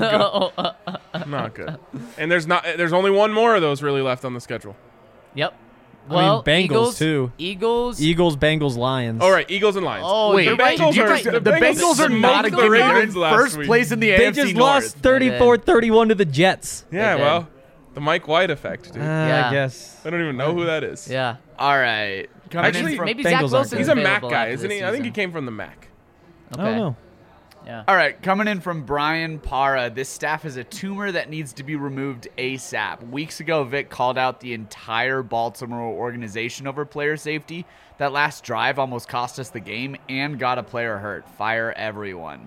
No. Not good. And there's not. There's only one more of those really left on the schedule. Yep. I mean, Well, Bengals, Eagles, too. Eagles. Eagles, Bengals, Lions. All right, Eagles and Lions. Oh, Wait, you're right. Bengals You're are- right. the The Bengals Bengals are smoked not the good. They're in Ravens last first week. place in the They A F C just North. lost thirty-four thirty-one to the Jets. Yeah, They did. well, the Mike White effect, dude. Uh, Yeah. I guess. I don't even know who that is. Yeah. All right. Coming in Actually, from- Maybe Bengals Zach aren't Wilson. good. He's a Mac guy, isn't he? I think he came from the Mac. Okay. I don't know. Yeah. All right, coming in from Brian Para. This staff has a tumor that needs to be removed ASAP. Weeks ago, Vic called out the entire Baltimore organization over player safety. That last drive almost cost us the game and got a player hurt. Fire everyone.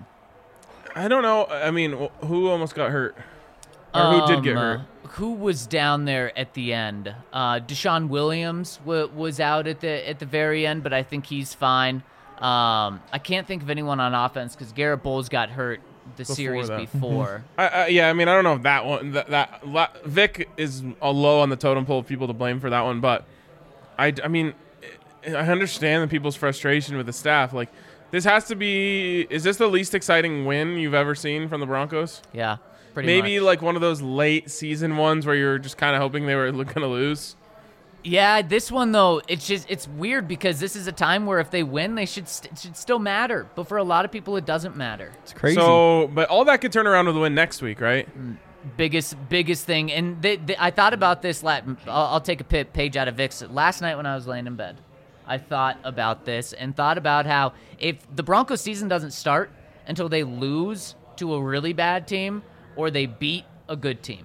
I don't know. I mean, wh- who almost got hurt? Or who did get Um, hurt? uh, Who was down there at the end? Uh, Deshaun Williams w- was out at the at the very end, but I think he's fine. Um, I can't think of anyone on offense because Garrett Bowles got hurt the series that. before. I, I, yeah, I mean, I don't know if that one. That, that la- Vic is a low on the totem pole of people to blame for that one, but I, I mean, I understand the people's frustration with the staff. Like, this has to be. Is this the least exciting win you've ever seen from the Broncos? Yeah, pretty Maybe much. like one of those late season ones where you're just kind of hoping they were going to lose. Yeah, this one though, it's just it's weird because this is a time where if they win, they should st- it should still matter. But for a lot of people, it doesn't matter. It's crazy. So, but all that could turn around with a win next week, right? Biggest biggest thing, and they, they, I thought about this. La- I'll, I'll take a pi- page out of Vic's. Last night when I was laying in bed, I thought about this and thought about how if the Broncos season doesn't start until they lose to a really bad team or they beat a good team.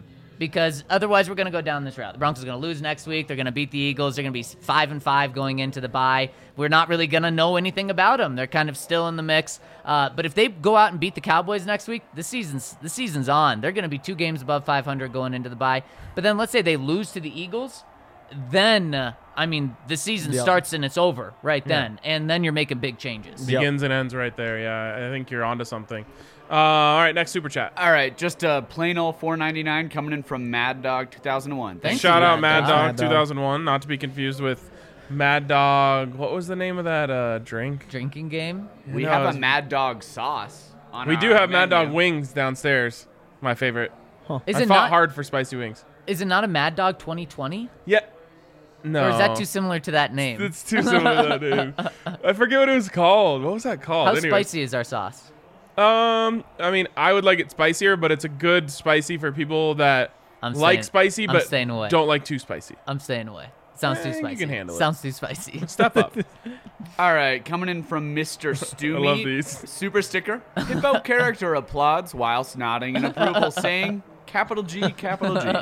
because otherwise we're going to go down this route. The Broncos are going to lose next week. They're going to beat the Eagles. They're going to be five and five going into the bye. We're not really going to know anything about them. They're kind of still in the mix. Uh, but if they go out and beat the Cowboys next week, the season's the season's on. They're going to be two games above five hundred going into the bye. But then let's say they lose to the Eagles, then uh, I mean the season Yep. starts and it's over right then, and then you're making big changes. Yep. Begins and ends right there. Yeah, I think you're onto something. Uh, all right, next super chat. All right, just a plain old four ninety-nine coming in from Mad Dog two thousand one. Thank Shout you, out Mad Mad Dog. Dog Mad Dog. two thousand one, not to be confused with Mad Dog. What was the name of that uh, drink? Drinking game. We No, have it's- a Mad Dog sauce on We our do have Mad menu. Dog wings downstairs. My favorite. Is I it fought not? hard for spicy wings. Is it not a Mad Dog twenty twenty? Yeah. No. Or is that too similar to that name? It's too similar to that name. I forget what it was called. What was that called? How Anyway. spicy is our sauce? Um, I mean, I would like it spicier, but it's a good spicy for people that I'm like staying- spicy I'm but staying away. don't like too spicy. I'm staying away. Sounds Eh, too you spicy. can handle it. Sounds too spicy. Step up. All right, coming in from Mister Stew I love Meat, these. Super sticker. Hippo character applauds whilst nodding in approval, saying, capital G, capital G.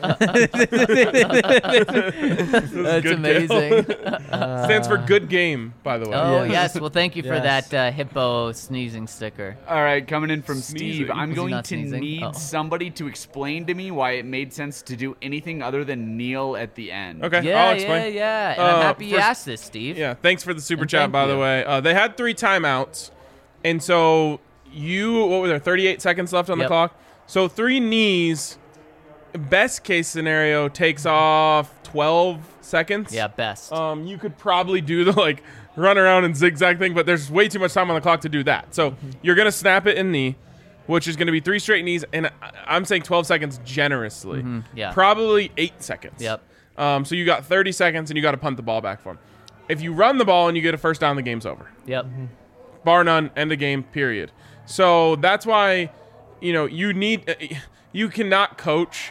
That's good amazing. Stands for good game, by the way. Oh, Yes. yes. Well, thank you for Yes. that uh, hippo sneezing sticker. All right, coming in from Sneezing. Steve. I'm Was he going not to sneezing? need Oh. somebody to explain to me why it made sense to do anything other than kneel at the end. Okay, Yeah, I'll yeah, explain. yeah. And Uh, I'm happy you first- asked this, Steve. Yeah, thanks for the super And chat, thank by the you. way. Uh, they had three timeouts, and so you, what were there, thirty-eight seconds left on the Yep. clock? So three knees, best case scenario, takes off twelve seconds. Yeah, best. Um, you could probably do the like run around and zigzag thing, but there's way too much time on the clock to do that. So Mm-hmm. you're gonna snap it in knee, which is gonna be three straight knees, and I- I'm saying twelve seconds generously. Mm-hmm. yeah. Probably eight seconds. Yep. Um, so you got thirty seconds, and you got to punt the ball back for him. If you run the ball and you get a first down, the game's over. Yep. Bar none, end of game, period. So that's why, you know, you need, uh, you cannot coach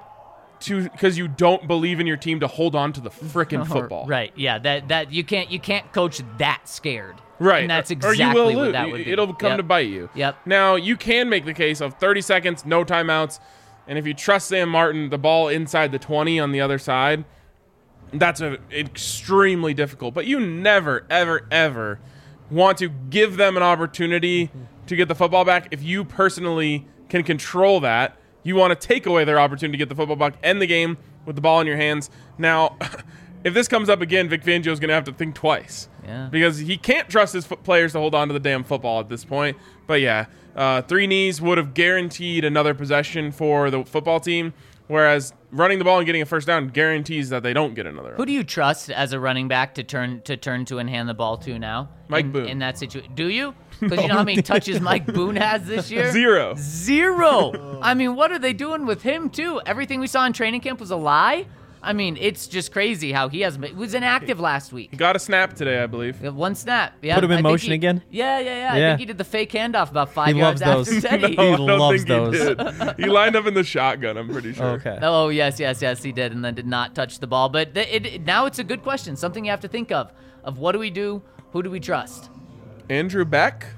to because you don't believe in your team to hold on to the frickin' football. Right. Yeah. That that you can't you can't coach that scared. Right. And that's Or exactly you will what lose. that would be. It'll come Yep. to bite you. Yep. Now, you can make the case of thirty seconds, no timeouts, and if you trust Sam Martin, the ball inside the twenty on the other side, that's a, extremely difficult. But you never, ever, ever want to give them an opportunity to get the football back. If you personally can control that, you want to take away their opportunity to get the football back, end the game with the ball in your hands. Now, if this comes up again, Vic Fangio's going to have to think twice. Yeah. Because he can't trust his fo- players to hold on to the damn football at this point. But yeah, uh, three knees would have guaranteed another possession for the football team, whereas running the ball and getting a first down guarantees that they don't get another. Who do you trust as a running back to turn to turn to and hand the ball to now? Mike in, Boone. In that situation, do you? Because you know how many touches Mike Boone has this year? Zero. Zero. I mean, what are they doing with him too? Everything we saw in training camp was a lie. I mean, it's just crazy how he hasn't been. He was inactive last week. He got a snap today, I believe. We have One snap. Yeah, Put him in I think motion he- again? Yeah, yeah, yeah. I Yeah. think he did the fake handoff about five He yards loves after those. Teddy. No, I don't loves think those. He, did. He lined up in the shotgun, I'm pretty sure. Okay. Oh yes, yes, yes, he did, and then did not touch the ball. But th- it, it- now it's a good question, something you have to think of: of what do we do? Who do we trust? Andrew Beck?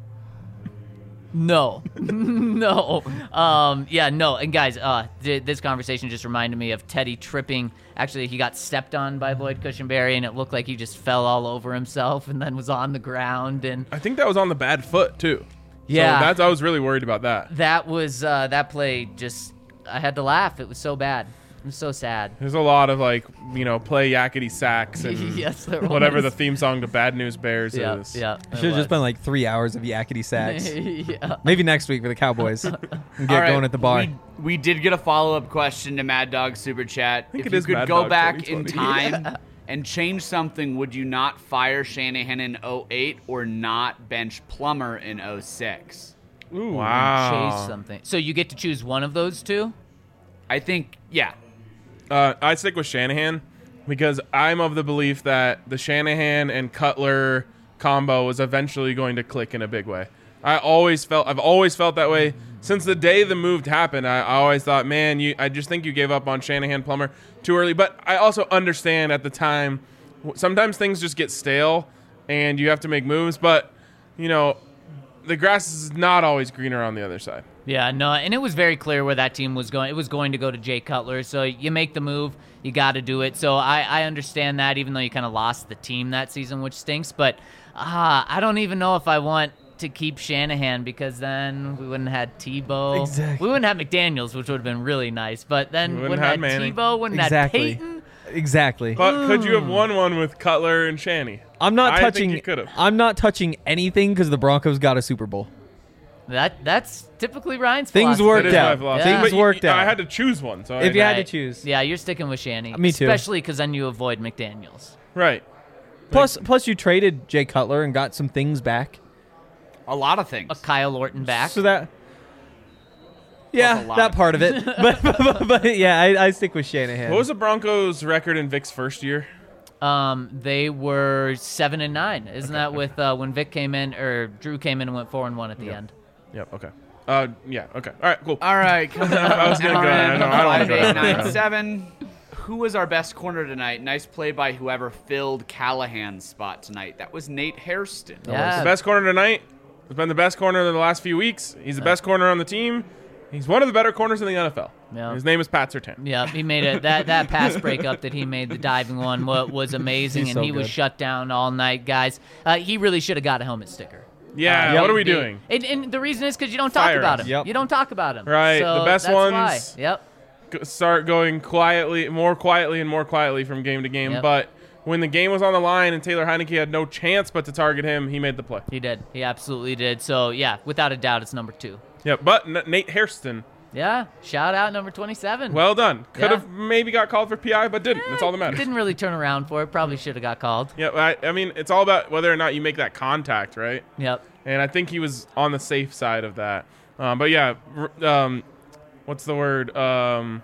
No, no, um, yeah, no. And guys, uh, th- this conversation just reminded me of Teddy tripping. Actually, he got stepped on by Lloyd Cushenberry, and it looked like he just fell all over himself, and then was on the ground. And I think that was on the bad foot, too. Yeah. So that's, I was really worried about that. that was uh, that play. Just I had to laugh. It was so bad. It was so sad. There's a lot of, like, you know, play yakety sacks and Yes, there whatever the was. theme song to Bad News Bears Yeah, is. yeah. it Should have just was. been like three hours of yakety sacks. yeah. Maybe next week for the Cowboys. And get All right, going at the bar. We, we did get a follow-up question to Mad Dog Super Chat. think If it you is could Mad go Dog back in twenty twenty. time and change something, would you not fire Shanahan in oh eight or not bench Plummer in oh six? Ooh, Chase wow. something. So you get to choose one of those two. I think, yeah. Uh, I stick with Shanahan because I'm of the belief that the Shanahan and Cutler combo is eventually going to click in a big way. I always felt I've always felt that way since the day the move happened. I, I always thought, man, you I just think you gave up on Shanahan Plummer too early. But I also understand at the time w- sometimes things just get stale and you have to make moves. But you know, the grass is not always greener on the other side. Yeah, no, and it was very clear where that team was going. It was going to go to Jay Cutler, so you make the move, you got to do it. So I, I understand that, even though you kind of lost the team that season, which stinks. But uh, I don't even know if I want to keep Shanahan, because then we wouldn't have had Tebow. Exactly. We wouldn't have McDaniels, which would have been really nice. But then We we wouldn't wouldn't, have have Manning. Tebow, wouldn't Exactly. have Peyton. Exactly. But could you have won one with Cutler and Shanny? I'm not I touching. think you could have. I'm not touching anything because the Broncos got a Super Bowl. That That's typically Ryan's Things philosophy. worked That is out. my philosophy. Yeah. Things But you- worked out. I had to choose one. So If I, you had to Right. choose. Yeah, you're sticking with Shanny. Me too. Especially because then you avoid McDaniels. right. Plus, plus you traded Jay Cutler and got some things back. A lot of things. A Kyle Orton back. So that. Yeah, a lot that of part of it. but, but, but yeah, I, I stick with Shanahan. What was the Broncos' record in Vic's first year? Um, they were seven and nine. Isn't that with uh, when Vic came in, or Drew came in and went four and one at the Yep. end? Yep. Okay. Uh. Yeah. Okay. All right. Cool. All right, coming up. I was gonna go. I know. I don't wanna Five, go eight, down nine, that road. seven. Who was our best corner tonight? Nice play by whoever filled Callahan's spot tonight. That was Nate Hairston. Yeah. The best corner tonight has been the best corner in the last few weeks. He's the best corner on the team. He's one of the better corners in the N F L. Yeah. His name is Pat Surtain. Yeah, he made it. That that pass breakup that he made, the diving one, wa- was amazing, He's and so he was good. shut down all night, guys. Uh, he really should have got a helmet sticker. Yeah. Uh, What are we the- doing? And, and the reason is because you don't talk Fire about us. him. Yep. You don't talk about him. Right, So the best that's ones- Why. Yep. Go- Start going quietly, more quietly and more quietly from game to game. Yep. But when the game was on the line and Taylor Heineke had no chance but to target him, he made the play. He did. He absolutely did. So yeah, without a doubt, it's number two. Yeah. But N- Nate Hairston, Yeah. Shout out number twenty-seven. well done. Could Yeah. have maybe got called for P I, but didn't. That's all that matters. Didn't really turn around for it. Probably should have got called. Yeah. I, I mean, it's all about whether or not you make that contact, right? Yep. And I think he was on the safe side of that. Um, but yeah, r- um, what's the word? Um,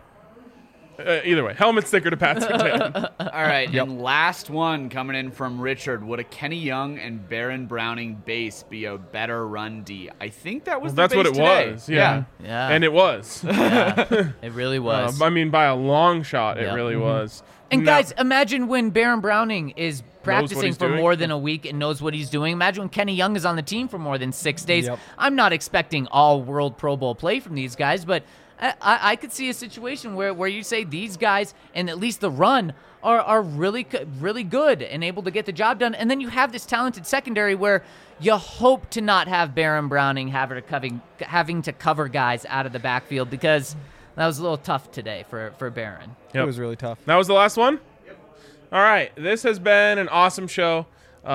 uh, either way, helmet sticker to Pat Surtain. All right, and last one coming in from Richard. Would a Kenny Young and Baron Browning base be a better run D? I think that was Well, the that's what base it today. was. Yeah. Yeah. And it was. yeah. It really was. Um, I mean, by a long shot, it Yeah. really Mhm. was. And Now- guys, imagine when Baron Browning is practicing he's for doing. more than a week and knows what he's doing. Imagine when Kenny Young is on the team for more than six days. Yep. I'm not expecting all World Pro Bowl play from these guys, but I, I, I could see a situation where, where you say these guys and at least the run are, are really co- really good and able to get the job done. And then you have this talented secondary where you hope to not have Baron Browning having to, covering, having to cover guys out of the backfield, because that was a little tough today for, for Baron. It was really tough. That was the last one? All right. This has been an awesome show.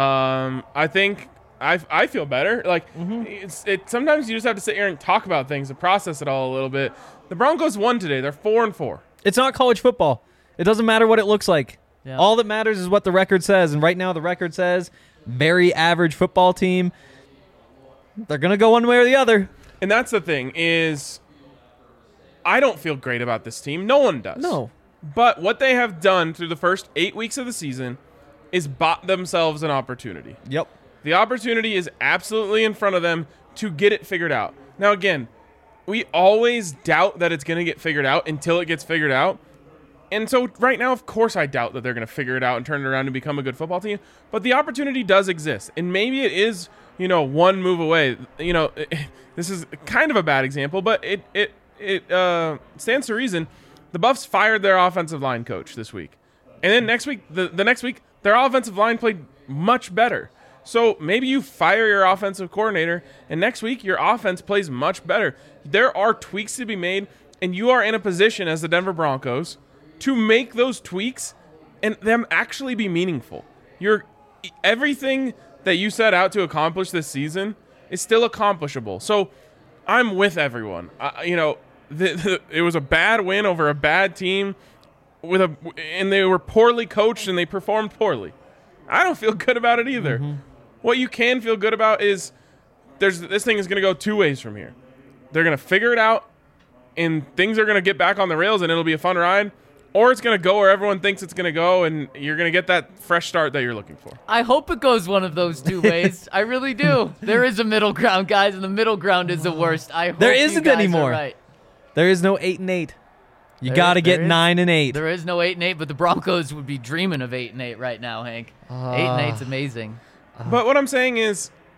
Um, I think I, I feel better. Like, it's, it, sometimes you just have to sit here and talk about things and process it all a little bit. The Broncos won today. They're four and four. It's not college football. It doesn't matter what it looks like. Yeah. All that matters is what the record says. And right now, the record says very average football team. They're going to go one way or the other. And that's the thing is, I don't feel great about this team. No one does. No. But what they have done through the first eight weeks of the season is bought themselves an opportunity. Yep. The opportunity is absolutely in front of them to get it figured out. Now, again, we always doubt that it's going to get figured out until it gets figured out. And so right now, of course, I doubt that they're going to figure it out and turn it around and become a good football team. But the opportunity does exist. And maybe it is, you know, one move away. You know, this is kind of a bad example, but it it it uh, stands to reason. The Buffs fired their offensive line coach this week. And then next week, the, the next week, their offensive line played much better. So maybe you fire your offensive coordinator, and next week your offense plays much better. There are tweaks to be made, and you are in a position as the Denver Broncos to make those tweaks and them actually be meaningful. You're everything that you set out to accomplish this season is still accomplishable. So I'm with everyone. I, you know, the, the, it was a bad win over a bad team with a, and they were poorly coached and they performed poorly. I don't feel good about it either. Mm-hmm. What you can feel good about is there's this thing is going to go two ways from here. They're going to figure it out, and things are going to get back on the rails, and it'll be a fun ride. Or it's going to go where everyone thinks it's going to go, and you're going to get that fresh start that you're looking for. I hope it goes one of those two ways. I really do. There is a middle ground, guys, and the middle ground is the worst. I hope There you isn't guys are anymore. right. There is no eight and eight. You There got to is- get there is- nine and eight. There is no eight and eight, but the Broncos would be dreaming of eight and eight right now, Hank. eight and eight's amazing. But what I'm saying is,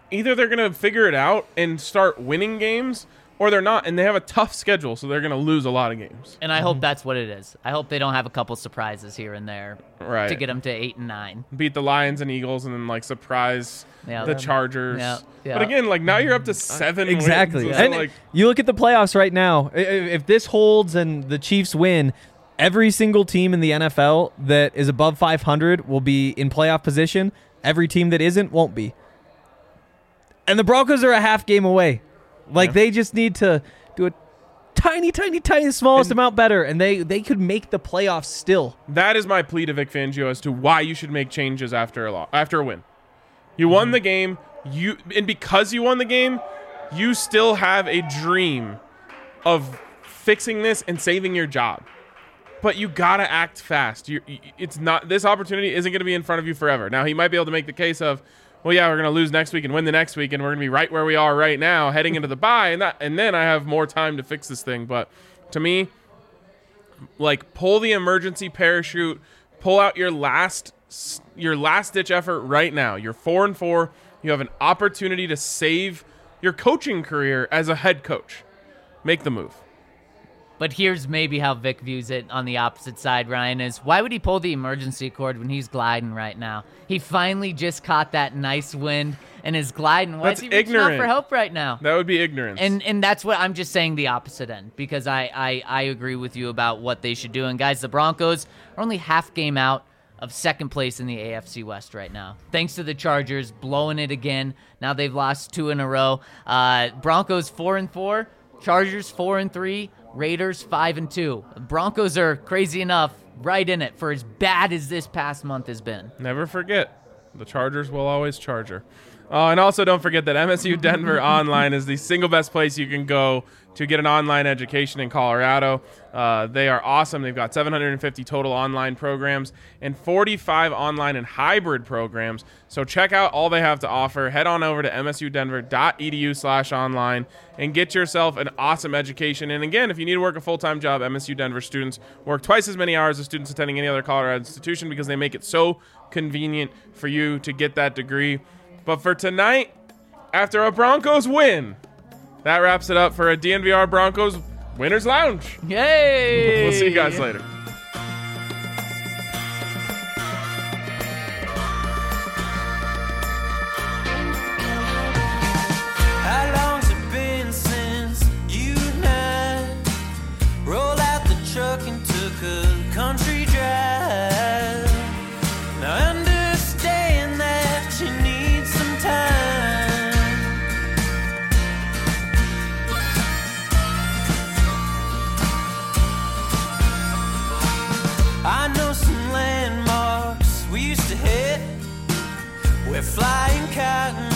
either they're going to figure it out and start winning games, or they're not, and they have a tough schedule, so they're going to lose a lot of games. And I hope that's what it is. I hope they don't have a couple surprises here and there Right. to get them to eight and nine. Beat the Lions and Eagles and then, like, surprise Yeah. the Chargers. Yeah. Yeah. But again, like, now you're up to seven Exactly. wins. So, And like, you look at the playoffs right now. I- i- If this holds and the Chiefs win, every single team in the N F L that is above five hundred will be in playoff position. Every team that isn't won't be. And the Broncos are a half game away. Like, Yeah. they just need to do a tiny, tiny, tiny, smallest And- amount better, and they, they could make the playoffs still. that is my plea to Vic Fangio as to why you should make changes after a lo- after a win. You won the game, you and because you won the game, you still have a dream of fixing this and saving your job. But you gotta act fast. You, it's not this opportunity isn't going to be in front of you forever. Now he might be able to make the case of, well, yeah, we're going to lose next week and win the next week, and we're going to be right where we are right now, heading into the bye, and that, and then I have more time to fix this thing. But to me, like, pull the emergency parachute, pull out your last your last ditch effort right now. You're four and four. You have an opportunity to save your coaching career as a head coach. Make the move. But here's maybe how Vic views it on the opposite side, Ryan, is why would he pull the emergency cord when he's gliding right now? He finally just caught that nice wind and is gliding. Why That's is he reaching out ignorant. for help right now? That would be ignorance. And and that's what I'm just saying, the opposite end, because I, I, I agree with you about what they should do. And guys, the Broncos are only half game out of second place in the A F C West right now, thanks to the Chargers blowing it again. Now they've lost two in a row. Uh, Broncos four and four, Chargers four and three, Raiders five and two. Broncos are crazy enough right in it for as bad as this past month has been. Never forget, the Chargers will always Charger. Uh, and also don't forget that M S U Denver Online is the single best place you can go to get an online education in Colorado. Uh, they are awesome. They've got seven hundred fifty total online programs and forty-five online and hybrid programs. So check out all they have to offer. Head on over to msudenver.edu slash online and get yourself an awesome education. And again, if you need to work a full-time job, M S U Denver students work twice as many hours as students attending any other Colorado institution because they make it so convenient for you to get that degree. But for tonight, after a Broncos win, that wraps it up for a D N V R Broncos Winners Lounge. Yay! We'll see you guys later. How long's it been since you and I rolled out the truck and took a country drive? Now I understand that you need some time. I know some landmarks we used to hit where flying cotton